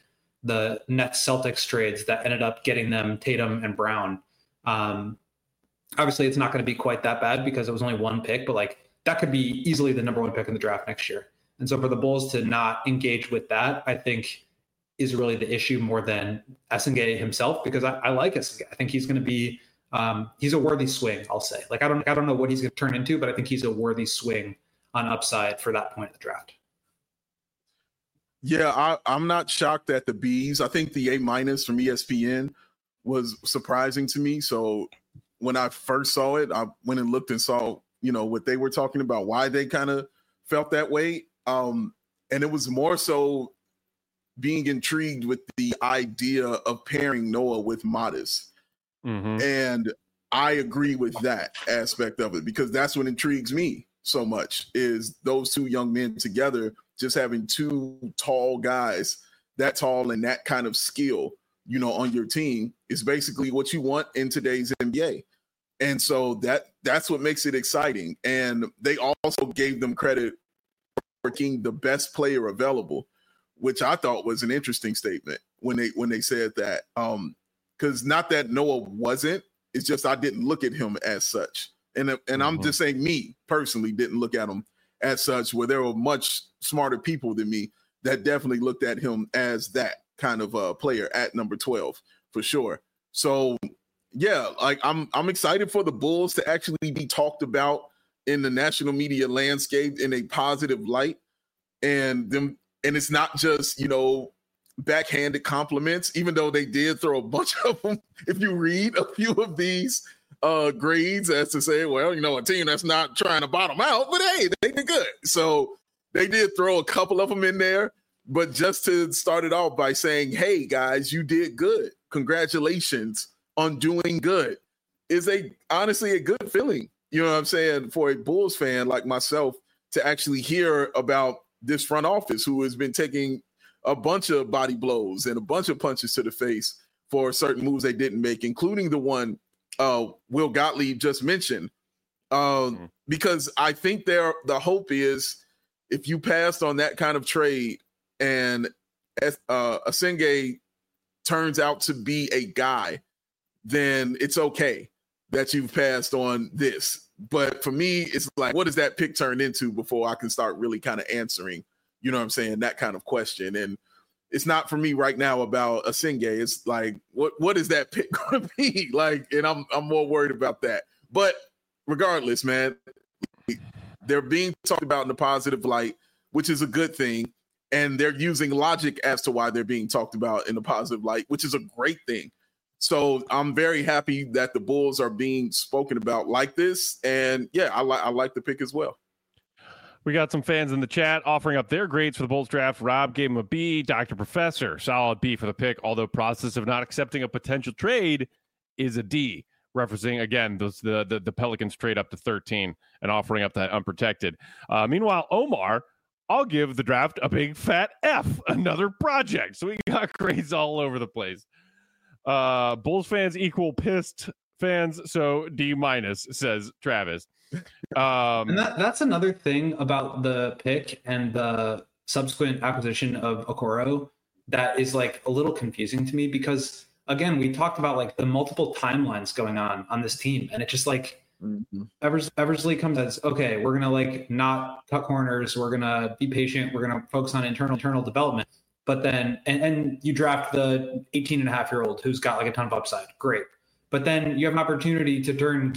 the Nets Celtics trades that ended up getting them Tatum and Brown. Obviously it's not going to be quite that bad because it was only one pick, but like that could be easily the number 1 pick in the draft next year. And so for the Bulls to not engage with that, I think is really the issue more than Asenge himself, because I like Asenge. I think he's going to be, he's a worthy swing, I'll say. Like, I don't know what he's going to turn into, but I think he's a worthy swing on upside for that point in the draft. Yeah, I'm not shocked at the Bs. I think the A- from ESPN was surprising to me. So when I first saw it, I went and looked and saw, what they were talking about, why they kind of felt that way. And it was more so being intrigued with the idea of pairing Noah with Modest. Mm-hmm. And I agree with that aspect of it, because that's what intrigues me so much, is those two young men together, just having two tall guys, that tall and that kind of skill, on your team is basically what you want in today's NBA. And so that's what makes it exciting. And they also gave them credit for being the best player available, which I thought was an interesting statement when they said that. Because not that Noah wasn't, it's just I didn't look at him as such. And I'm just saying, me personally didn't look at him as such, where there were much smarter people than me that definitely looked at him as that kind of a player at number 12 for sure. So yeah, like I'm excited for the Bulls to actually be talked about in the national media landscape in a positive light, and it's not just backhanded compliments, even though they did throw a bunch of them. If you read a few of these grades, as to say, well, a team that's not trying to bottom out, but hey, they did good. So they did throw a couple of them in there, but just to start it off by saying, hey guys, you did good. Congratulations on doing good is honestly a good feeling. You know what I'm saying? For a Bulls fan like myself to actually hear about this front office who has been taking a bunch of body blows and a bunch of punches to the face for certain moves they didn't make, including the one Will Gottlieb just mentioned. Because I think the hope is, if you passed on that kind of trade and Asenge turns out to be a guy, then it's okay that you've passed on this. But for me, it's like, what does that pick turn into before I can start really kind of answering, that kind of question? And it's not for me right now about Asenge. It's like, what is that pick going to be like? And I'm more worried about that. But regardless, man, they're being talked about in a positive light, which is a good thing. And they're using logic as to why they're being talked about in a positive light, which is a great thing. So I'm very happy that the Bulls are being spoken about like this. And yeah, I like the pick as well. We got some fans in the chat offering up their grades for the Bulls draft. Rob gave him a B. Dr. Professor, solid B for the pick, although process of not accepting a potential trade is a D. referencing again the Pelicans trade up to 13 and offering up that unprotected. Meanwhile, Omar, I'll give the draft a big fat F, another project. So we got grades all over the place. Bulls fans equal pissed fans, so D-, says Travis. And that's another thing about the pick and the subsequent acquisition of Okoro that is like a little confusing to me, because again, we talked about like the multiple timelines going on this team, and it just like Eversley comes as, okay, we're gonna like not cut corners, we're gonna be patient, we're gonna focus on internal development. But then and you draft the 18-and-a-half-year-old who's got like a ton of upside, great. But then you have an opportunity to turn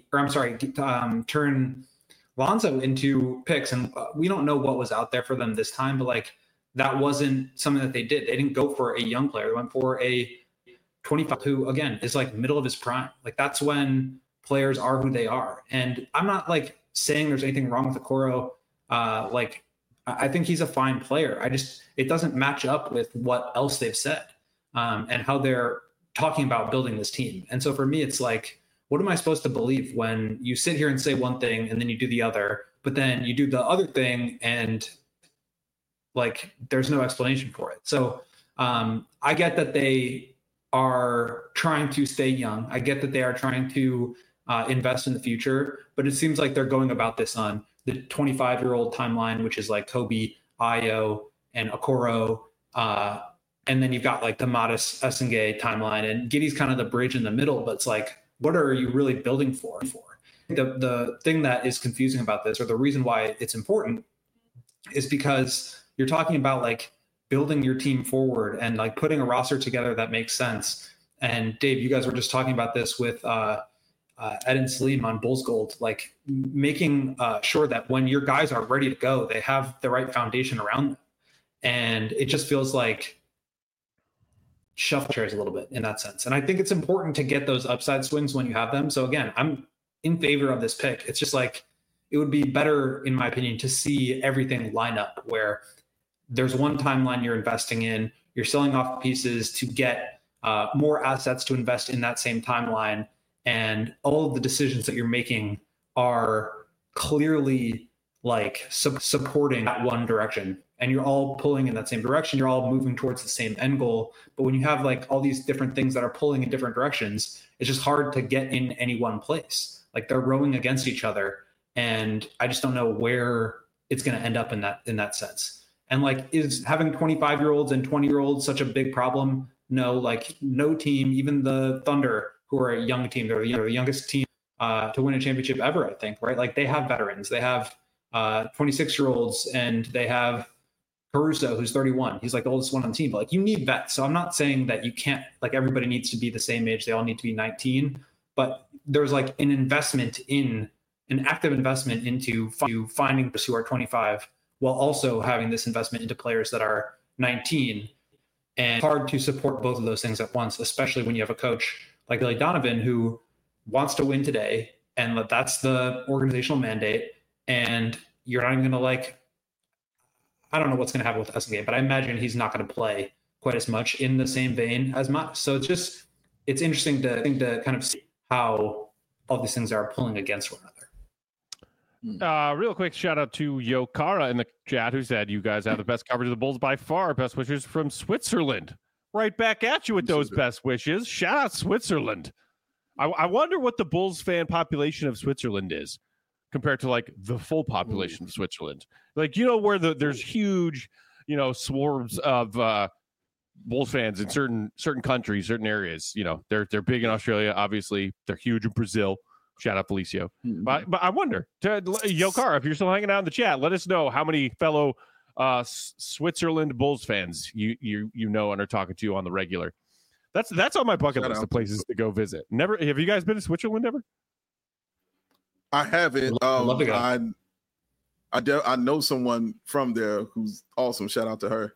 turn Lonzo into picks, and we don't know what was out there for them this time, but like that wasn't something that they did. They didn't go for a young player; they went for a 25 who, again, is like middle of his prime. Like that's when players are who they are. And I'm not like saying there's anything wrong with Okoro. Like I think he's a fine player. It doesn't match up with what else they've said and how they're talking about building this team. And so for me, it's like, what am I supposed to believe when you sit here and say one thing and then you do the other, but then you do the other thing and like there's no explanation for it. So I get that they are trying to stay young. I get that they are trying to invest in the future, but it seems like they're going about this on the 25-year-old timeline, which is like Kobe, Ayo, and Okoro. And then you've got like the Modest Essengay timeline, and Giddey's kind of the bridge in the middle, but it's like, what are you really building for? The thing that is confusing about this, or the reason why it's important, is because you're talking about like building your team forward and like putting a roster together that makes sense. And Dave, you guys were just talking about this with Ed and Salim on Bulls Gold, like making sure that when your guys are ready to go, they have the right foundation around them. And it just feels like shuffle chairs a little bit in that sense. And I think it's important to get those upside swings when you have them. So again, I'm in favor of this pick. It's just like, it would be better, in my opinion, to see everything line up where there's one timeline you're investing in, you're selling off pieces to get more assets to invest in that same timeline. And all of the decisions that you're making are clearly like supporting that one direction. And you're all pulling in that same direction. You're all moving towards the same end goal. But when you have like all these different things that are pulling in different directions, it's just hard to get in any one place. Like they're rowing against each other. And I just don't know where it's going to end up in that sense. And like, is having 25-year-olds and 20-year-olds such a big problem? No, like no team, even the Thunder, who are a young team, they're the youngest team to win a championship ever, I think, right? Like they have veterans, they have 26-year-olds, and they have Caruso, who's 31. He's like the oldest one on the team. But like you need vets. So I'm not saying that you can't, like everybody needs to be the same age. They all need to be 19. But there's like an active investment into finding those who are 25 while also having this investment into players that are 19. And it's hard to support both of those things at once, especially when you have a coach like Billy Donovan who wants to win today. And that's the organizational mandate. And you're not even going to like, I don't know what's going to happen with Essengay, but I imagine he's not going to play quite as much in the same vein as much. So it's interesting to kind of see how all these things are pulling against one another. Real quick shout out to Yokara in the chat who said, you guys have the best coverage of the Bulls by far. Best wishes from Switzerland. Right back at you with those best wishes. Shout out Switzerland. I wonder what the Bulls fan population of Switzerland is compared to like the full population of Switzerland. Like, where there's huge, swarms of Bulls fans in certain countries, certain areas. They're big in Australia, obviously. They're huge in Brazil. Shout out Felicio. But I wonder, Yokara, if you're still hanging out in the chat, let us know how many fellow Switzerland Bulls fans you know and are talking to on the regular. That's on my bucket list of places to go visit. Never have you guys been to Switzerland ever? I haven't. Love to go. I know someone from there who's awesome. Shout out to her.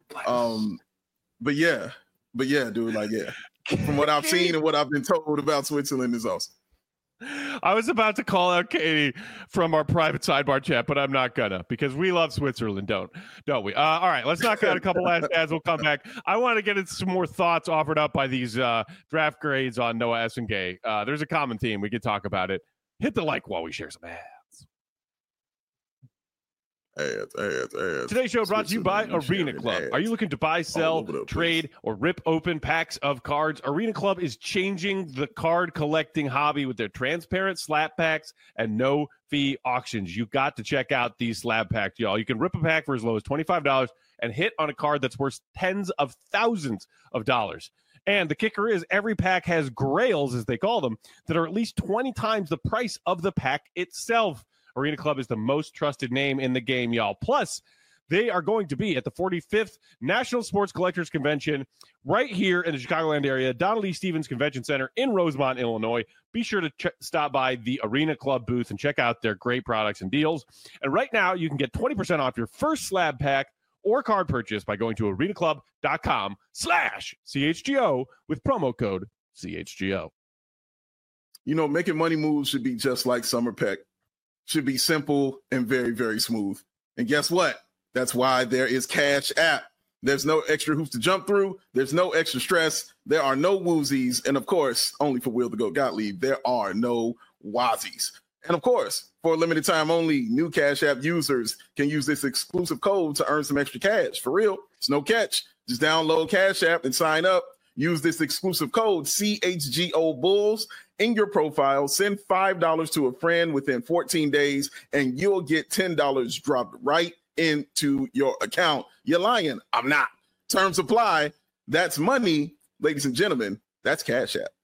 But yeah, dude, like, yeah. From what I've seen and what I've been told about Switzerland is awesome. I was about to call out Katie from our private sidebar chat, but I'm not gonna because we love Switzerland, don't we? All right, let's knock out a couple last ads. We'll come back. I want to get into some more thoughts offered up by these draft grades on Noah Essengay. There's a common theme. We could talk about it. Hit the like while we share some ads. Today's show brought to you by Arena Club. Are you looking to buy, sell, trade, or rip open packs of cards? Arena Club is changing the card collecting hobby with their transparent slab packs and no-fee auctions. You got to check out these slab packs, y'all. You can rip a pack for as low as $25 and hit on a card that's worth tens of thousands of dollars. And the kicker is every pack has grails, as they call them, that are at least 20 times the price of the pack itself. Arena Club is the most trusted name in the game, y'all. Plus, they are going to be at the 45th National Sports Collectors Convention right here in the Chicagoland area, Donald E. Stevens Convention Center in Rosemont, Illinois. Be sure to stop by the Arena Club booth and check out their great products and deals. And right now, you can get 20% off your first slab pack or card purchase by going to arenaclub.com/CHGO with promo code CHGO. You know, making money moves should be just like Summer Peck. Should be simple and very, very smooth. And guess what? That's why there is Cash App. There's no extra hoops to jump through. There's no extra stress. There are no woozies. And of course, only for Will the Goat Gottlieb, there are no wazies. And of course, for a limited time only, new Cash App users can use this exclusive code to earn some extra cash. For real, it's no catch. Just download Cash App and sign up. Use this exclusive code CHGO Bulls in your profile. Send $5 to a friend within 14 days, and you'll get $10 dropped right into your account. You're lying. I'm not. Terms apply. That's money, ladies and gentlemen. That's Cash App.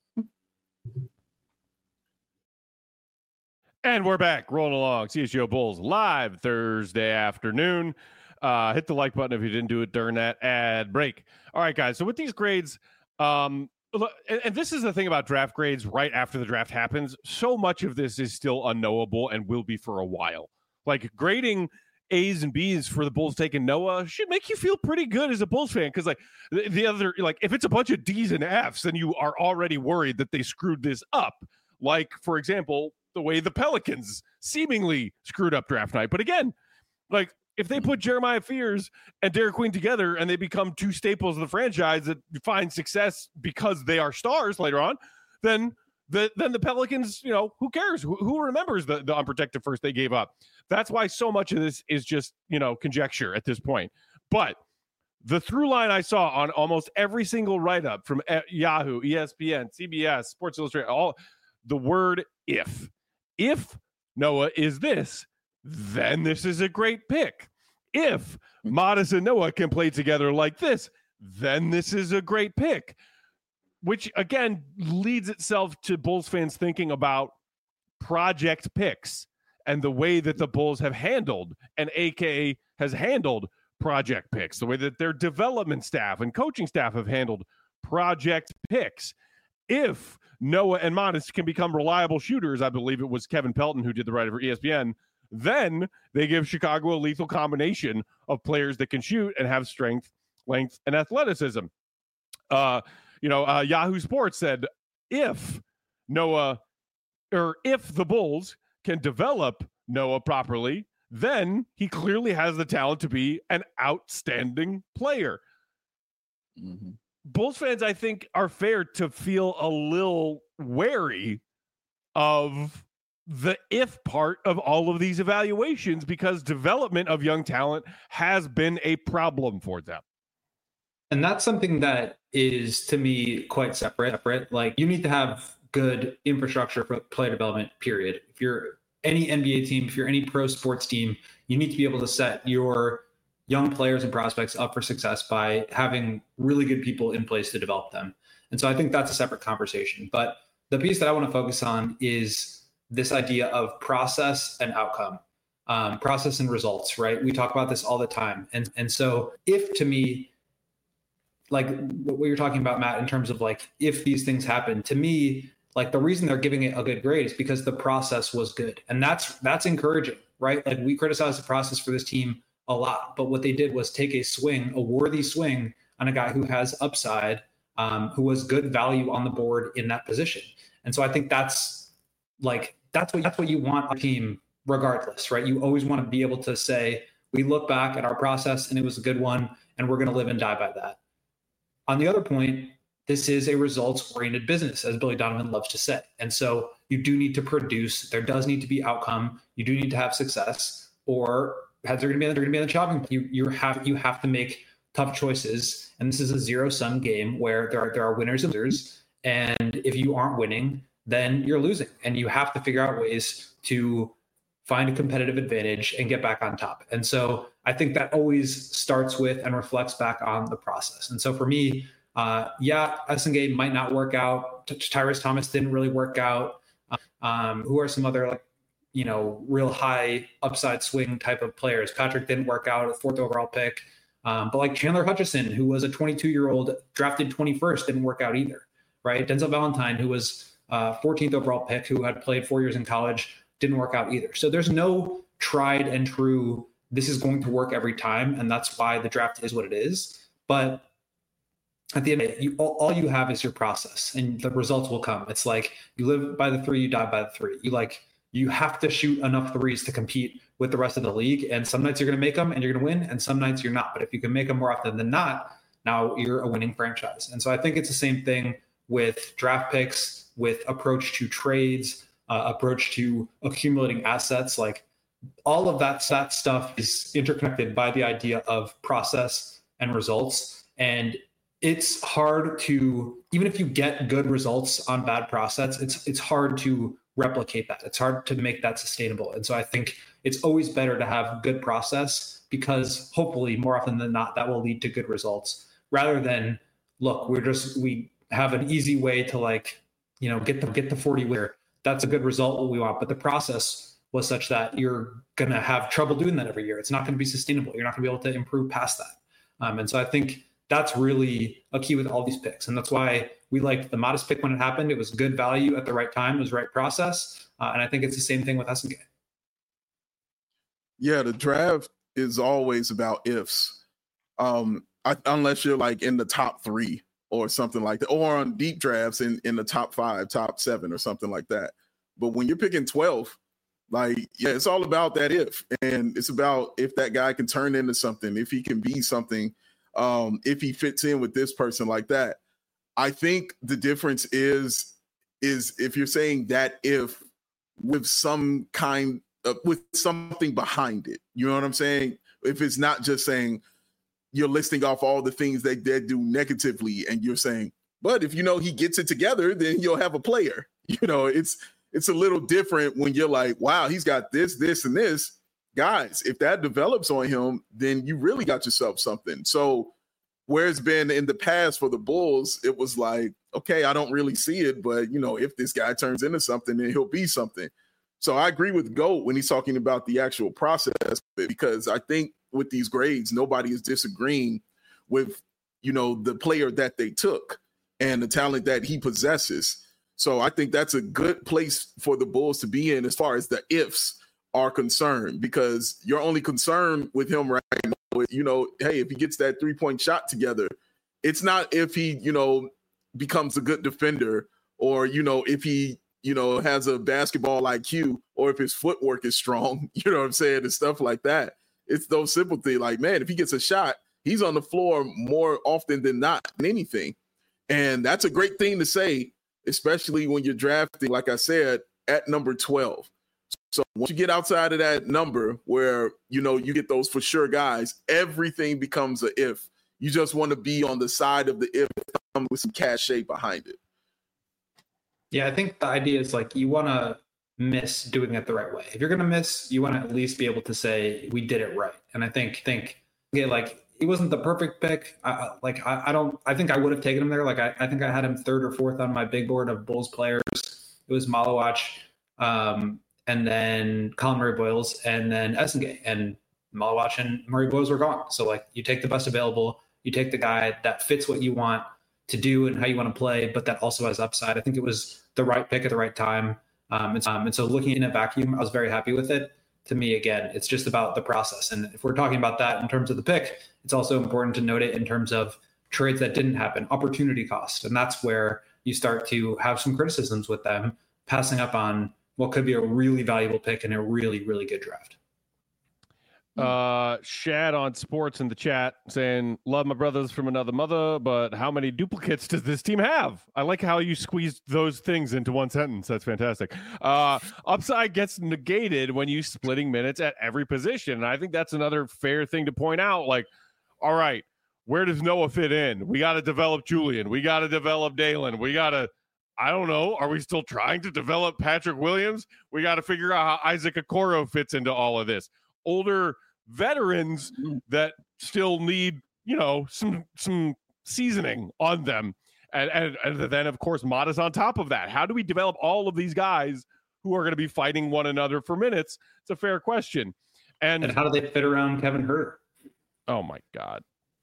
And we're back, rolling along. CHGO Bulls live Thursday afternoon. Hit the like button if you didn't do it during that ad break. All right, guys. So with these grades, and this is the thing about draft grades right after the draft happens. So much of this is still unknowable and will be for a while. Like grading A's and B's for the Bulls taking Noah should make you feel pretty good as a Bulls fan. Because like the other, like if it's a bunch of D's and F's, then you are already worried that they screwed this up. Like, for example, the way the Pelicans seemingly screwed up draft night. But again, like, if they put Jeremiah Fears and Derek Queen together and they become two staples of the franchise that find success because they are stars later on, then the Pelicans, you know, who cares? Who remembers the unprotected first they gave up? That's why so much of this is just, you know, conjecture at this point. But the through line I saw on almost every single write-up from Yahoo, ESPN, CBS, Sports Illustrated, all the word if. If Noah is this, then this is a great pick. If Modest and Noah can play together like this, then this is a great pick. Which, again, leads itself to Bulls fans thinking about project picks and the way that the Bulls have handled, and AKA has handled project picks, the way that their development staff and coaching staff have handled project picks. If Noah and Modest can become reliable shooters, I believe it was Kevin Pelton who did the writing for ESPN, then they give Chicago a lethal combination of players that can shoot and have strength, length, and athleticism. Yahoo Sports said if the Bulls can develop Noah properly, then he clearly has the talent to be an outstanding player. Mm-hmm. Bulls fans, I think, are fair to feel a little wary of the if part of all of these evaluations because development of young talent has been a problem for them. And that's something that is, to me, quite separate. Like, you need to have good infrastructure for player development, period. If you're any NBA team, if you're any pro sports team, you need to be able to set your young players and prospects up for success by having really good people in place to develop them. And so I think that's a separate conversation. But the piece that I want to focus on is this idea of process and outcome, process and results, right? We talk about this all the time. And so if, to me, like what you're talking about, Matt, in terms of like, if these things happen, to me, like the reason they're giving it a good grade is because the process was good. And that's encouraging, right? Like, we criticize the process for this team a lot, but what they did was take a worthy swing on a guy who has upside, who was good value on the board in that position. And so I think that's like that's what you want a team regardless, right? You always want to be able to say, we look back at our process and it was a good one, and we're going to live and die by that. On the other point, this is a results-oriented business, as Billy Donovan loves to say. And so you do need to produce. There does need to be outcome. You do need to have success, or heads are going to be on the chopping block. You have to make tough choices. And this is a zero-sum game where there are winners and losers. And if you aren't winning, then you're losing. And you have to figure out ways to find a competitive advantage and get back on top. And so I think that always starts with and reflects back on the process. And so for me, Essengate might not work out. Tyrus Thomas didn't really work out. Who are some other real high upside swing type of players? Patrick didn't work out, a 4th overall pick. But like Chandler Hutchison, who was a 22-year-old drafted 21st, didn't work out either, right? Denzel Valentine, who was 14th overall pick, who had played 4 years in college, didn't work out either. So there's no tried and true, this is going to work every time, and that's why the draft is what it is. But at the end of it, all you have is your process, and the results will come. It's like you live by the 3, you die by the 3. You have to shoot enough threes to compete with the rest of the league, and some nights you're going to make them and you're going to win, and some nights you're not. But if you can make them more often than not, now you're a winning franchise. And so I think it's the same thing with draft picks, with approach to trades, approach to accumulating assets. Like all of that stuff is interconnected by the idea of process and results. And it's hard to, even if you get good results on bad process, it's hard to replicate that. It's hard to make that sustainable. And so I think it's always better to have good process, because hopefully more often than not, that will lead to good results, rather than, look, we have an easy way to get the 40 winner. That's a good result, what we want. But the process was such that you're going to have trouble doing that every year. It's not going to be sustainable. You're not going to be able to improve past that. And so I think that's really a key with all these picks. And that's why we liked the modest pick when it happened. It was good value at the right time. It was right process. And I think it's the same thing with Essengate. Yeah, the draft is always about ifs. Unless you're like in the top 3 or something like that, or on deep drafts in the top 5, top 7 or something like that. But when you're picking 12, it's all about that if. And it's about if that guy can turn into something, if he can be something, if he fits in with this person like that. I think the difference is if you're saying that if with some kind of, with something behind it, you know what I'm saying? If it's not just saying you're listing off all the things they do negatively and you're saying, but if he gets it together, then you'll have a player. It's a little different when you're like, wow, he's got this, this, and this. Guys, if that develops on him, then you really got yourself something. So where it's been in the past for the Bulls, it was like, okay, I don't really see it, but if this guy turns into something, then he'll be something. So I agree with Goat when he's talking about the actual process, because I think with these grades, nobody is disagreeing with, the player that they took and the talent that he possesses. So I think that's a good place for the Bulls to be in as far as the ifs are concerned, because your only concern with him right now, hey, if he gets that 3-point shot together, it's not if he, becomes a good defender, or, if he, has a basketball IQ, or if his footwork is strong, you know what I'm saying, and stuff like that. It's those simple things. Like, man, if he gets a shot, he's on the floor more often than not than anything. And that's a great thing to say, especially when you're drafting, like I said, at number 12. So once you get outside of that number where, you get those for sure guys, everything becomes a if. You just want to be on the side of the if with some cachet behind it. Yeah, I think the idea is you want to miss doing it the right way. If you're going to miss, you want to at least be able to say, we did it right. And I think he wasn't the perfect pick. I think I would have taken him there. I think I had him 3rd or 4th on my big board of Bulls players. It was Malawach, and then Colin Murray-Boyles, and then Essengate, and Malawach and Murray-Boyles were gone. So you take the best available, you take the guy that fits what you want to do and how you want to play, but that also has upside. I think it was the right pick at the right time. And so looking in a vacuum, I was very happy with it. To me, again, it's just about the process. And if we're talking about that in terms of the pick, it's also important to note it in terms of trades that didn't happen, opportunity cost. And that's where you start to have some criticisms with them passing up on what could be a really valuable pick in a really, really good draft. Shad on sports in the chat saying, love my brothers from another mother, but how many duplicates does this team have? I like how you squeezed those things into one sentence. That's fantastic. Upside gets negated when you splitting minutes at every position. And I think that's another fair thing to point out. Like, all right, where does Noah fit in? We got to develop Julian. We got to develop Dalen. We got to, I don't know. Are we still trying to develop Patrick Williams? We got to figure out how Isaac Okoro fits into all of this. Older veterans that still need, some seasoning on them. And then, of course, Modest on top of that. How do we develop all of these guys who are going to be fighting one another for minutes? It's a fair question. And how do they fit around Kevin Huerter? Oh, my God.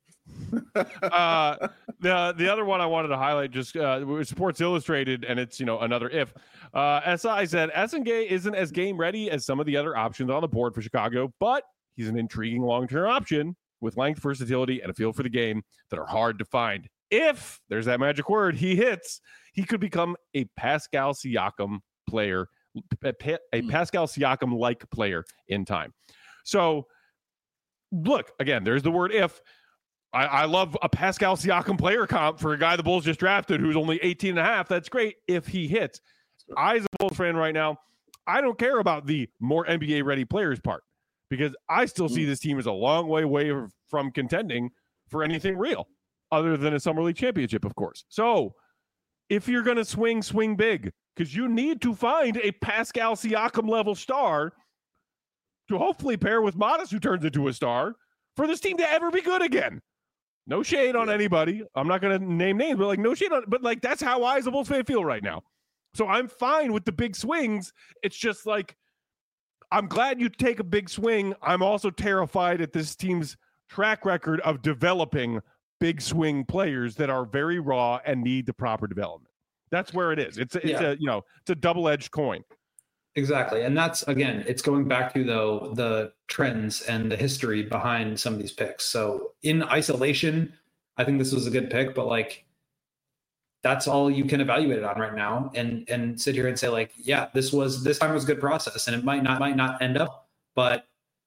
The other one I wanted to highlight just Sports Illustrated, and it's another if. SI said Essengay isn't as game ready as some of the other options on the board for Chicago, but he's an intriguing long-term option with length, versatility, and a feel for the game that are hard to find. If there's that magic word he hits, he could become a Pascal Siakam player, a Pascal Siakam-like player in time. So look, again, there's the word if. I love a Pascal Siakam player comp for a guy the Bulls just drafted who's only 18 and a half. That's great if he hits. I, as a Bulls fan right now, I don't care about the more NBA ready players part because I still see this team as a long way from contending for anything real other than a Summer League championship, of course. So if you're going to swing big because you need to find a Pascal Siakam level star to hopefully pair with Modest, who turns into a star, for this team to ever be good again. No shade on anybody. I'm not going to name names, but no shade on, but that's how I as a Bulls fan feel right now. So I'm fine with the big swings. It's just I'm glad you take a big swing. I'm also terrified at this team's track record of developing big swing players that are very raw and need the proper development. That's where it is. It's a double-edged coin. Exactly. And that's, again, it's going back to, though, the trends and the history behind some of these picks. So in isolation, I think this was a good pick, but that's all you can evaluate it on right now and sit here and say this time was a good process and it might not end up, but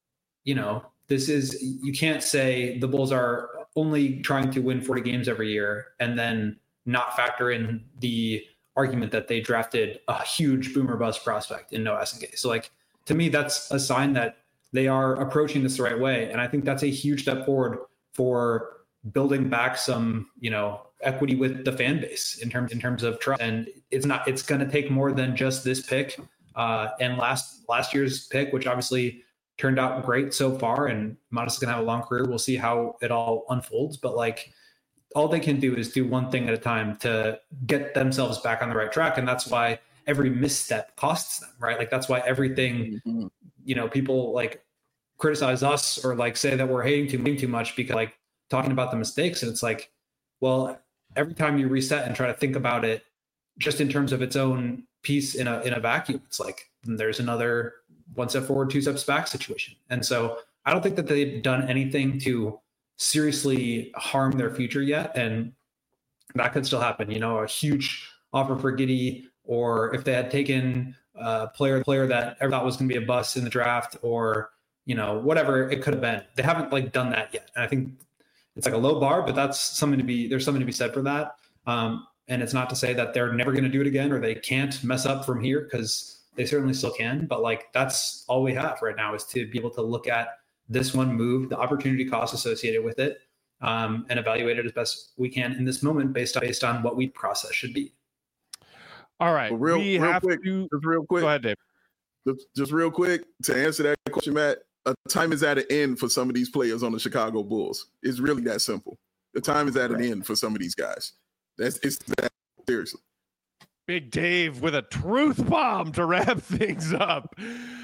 you can't say the Bulls are only trying to win 40 games every year and then not factor in the argument that they drafted a huge boomer bust prospect in Noah Essengay. So to me, that's a sign that they are approaching this the right way. And I think that's a huge step forward for building back some, equity with the fan base in terms of trust. And it's going to take more than just this pick and last year's pick, which obviously turned out great so far. And Modest is going to have a long career. We'll see how it all unfolds. But all they can do is do one thing at a time to get themselves back on the right track. And that's why every misstep costs them, right? That's why everything, people criticize us or say that we're hating too much because talking about the mistakes. And it's well, every time you reset and try to think about it just in terms of its own piece in a vacuum, it's there's another one step forward, two steps back situation. And so I don't think that they've done anything to seriously harm their future yet, and that could still happen. A huge offer for Giddey, or if they had taken a player that everyone thought was going to be a bust in the draft, or whatever it could have been. They haven't done that yet, and I think it's a low bar, but there's something to be said for that. And it's not to say that they're never going to do it again or they can't mess up from here, because they certainly still can. But that's all we have right now, is to be able to look at this one move, the opportunity cost associated with it, and evaluate it as best we can in this moment based on what we process should be. All right. Well, real quick. Go ahead, Dave. Just real quick to answer that question, Matt. A time is at an end for some of these players on the Chicago Bulls. It's really that simple. The time is at an end for some of these guys. It's that seriously. Big Dave with a truth bomb to wrap things up.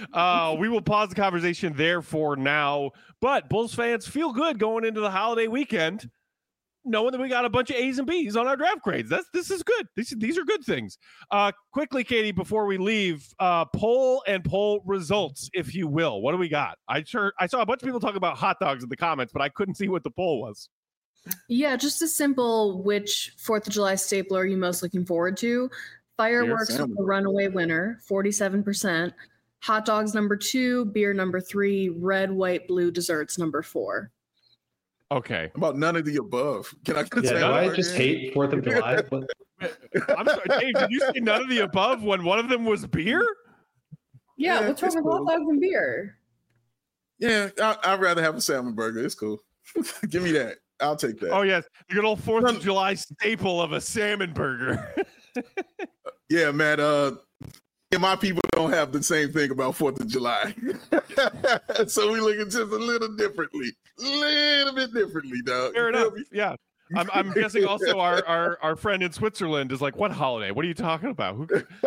We will pause the conversation there for now. But Bulls fans, feel good going into the holiday weekend, knowing that we got a bunch of A's and B's on our draft grades. This is good. These are good things. Quickly, Katie, before we leave, poll results, if you will. What do we got? I saw a bunch of people talk about hot dogs in the comments, but I couldn't see what the poll was. Yeah, just a simple which 4th of July stapler are you most looking forward to? Fireworks was the runaway winner, 47%. Hot dogs number 2, beer number 3, red, white, blue desserts number 4. Okay. About none of the above. Can I say I just hate 4th of July? I'm sorry, Dave, did you say none of the above when one of them was beer? Yeah, what's wrong with hot dogs and beer? Yeah, I'd rather have a salmon burger. It's cool. Give me that. I'll take that. Oh, yes. The good old 4th of July staple of a salmon burger. Yeah, man. My people don't have the same thing about 4th of July. So we look at just a little bit differently, dog. Fair enough. Yeah. I'm guessing also our friend in Switzerland is like, what holiday? What are you talking about?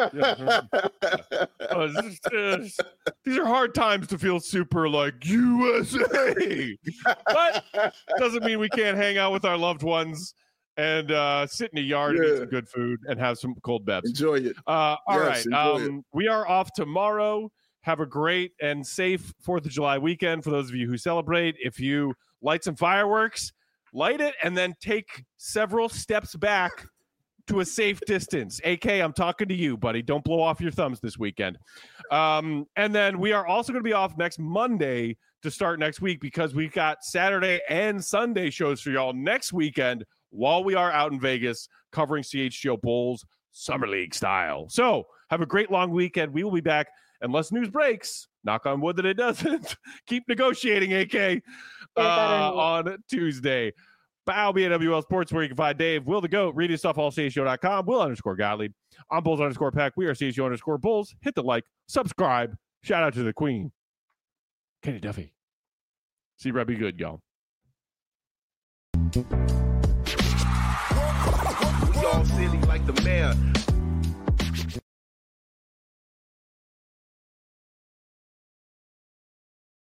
These are hard times to feel super like USA. But doesn't mean we can't hang out with our loved ones and sit in a yard and eat some good food and have some cold bevs. Enjoy it. All right. We are off tomorrow. Have a great and safe 4th of July weekend for those of you who celebrate. If you light some fireworks, light it and then take several steps back to a safe distance. AK, I'm talking to you, buddy. Don't blow off your thumbs this weekend. And then we are also going to be off next Monday to start next week because we've got Saturday and Sunday shows for y'all next weekend while we are out in Vegas covering CHGO Bulls Summer League style. So have a great long weekend. We will be back unless news breaks. Knock on wood that it doesn't. Keep negotiating, AK. On Tuesday. Bow BNWL Sports, where you can find Dave, Will the Goat, read his stuff, allchgo.com, Will_Gottlieb. I'm Bulls_Pack. We are CHGO_Bulls. Hit the like, subscribe. Shout out to the Queen, Kenny Duffy. See Red be good, y'all. We all silly like the mayor.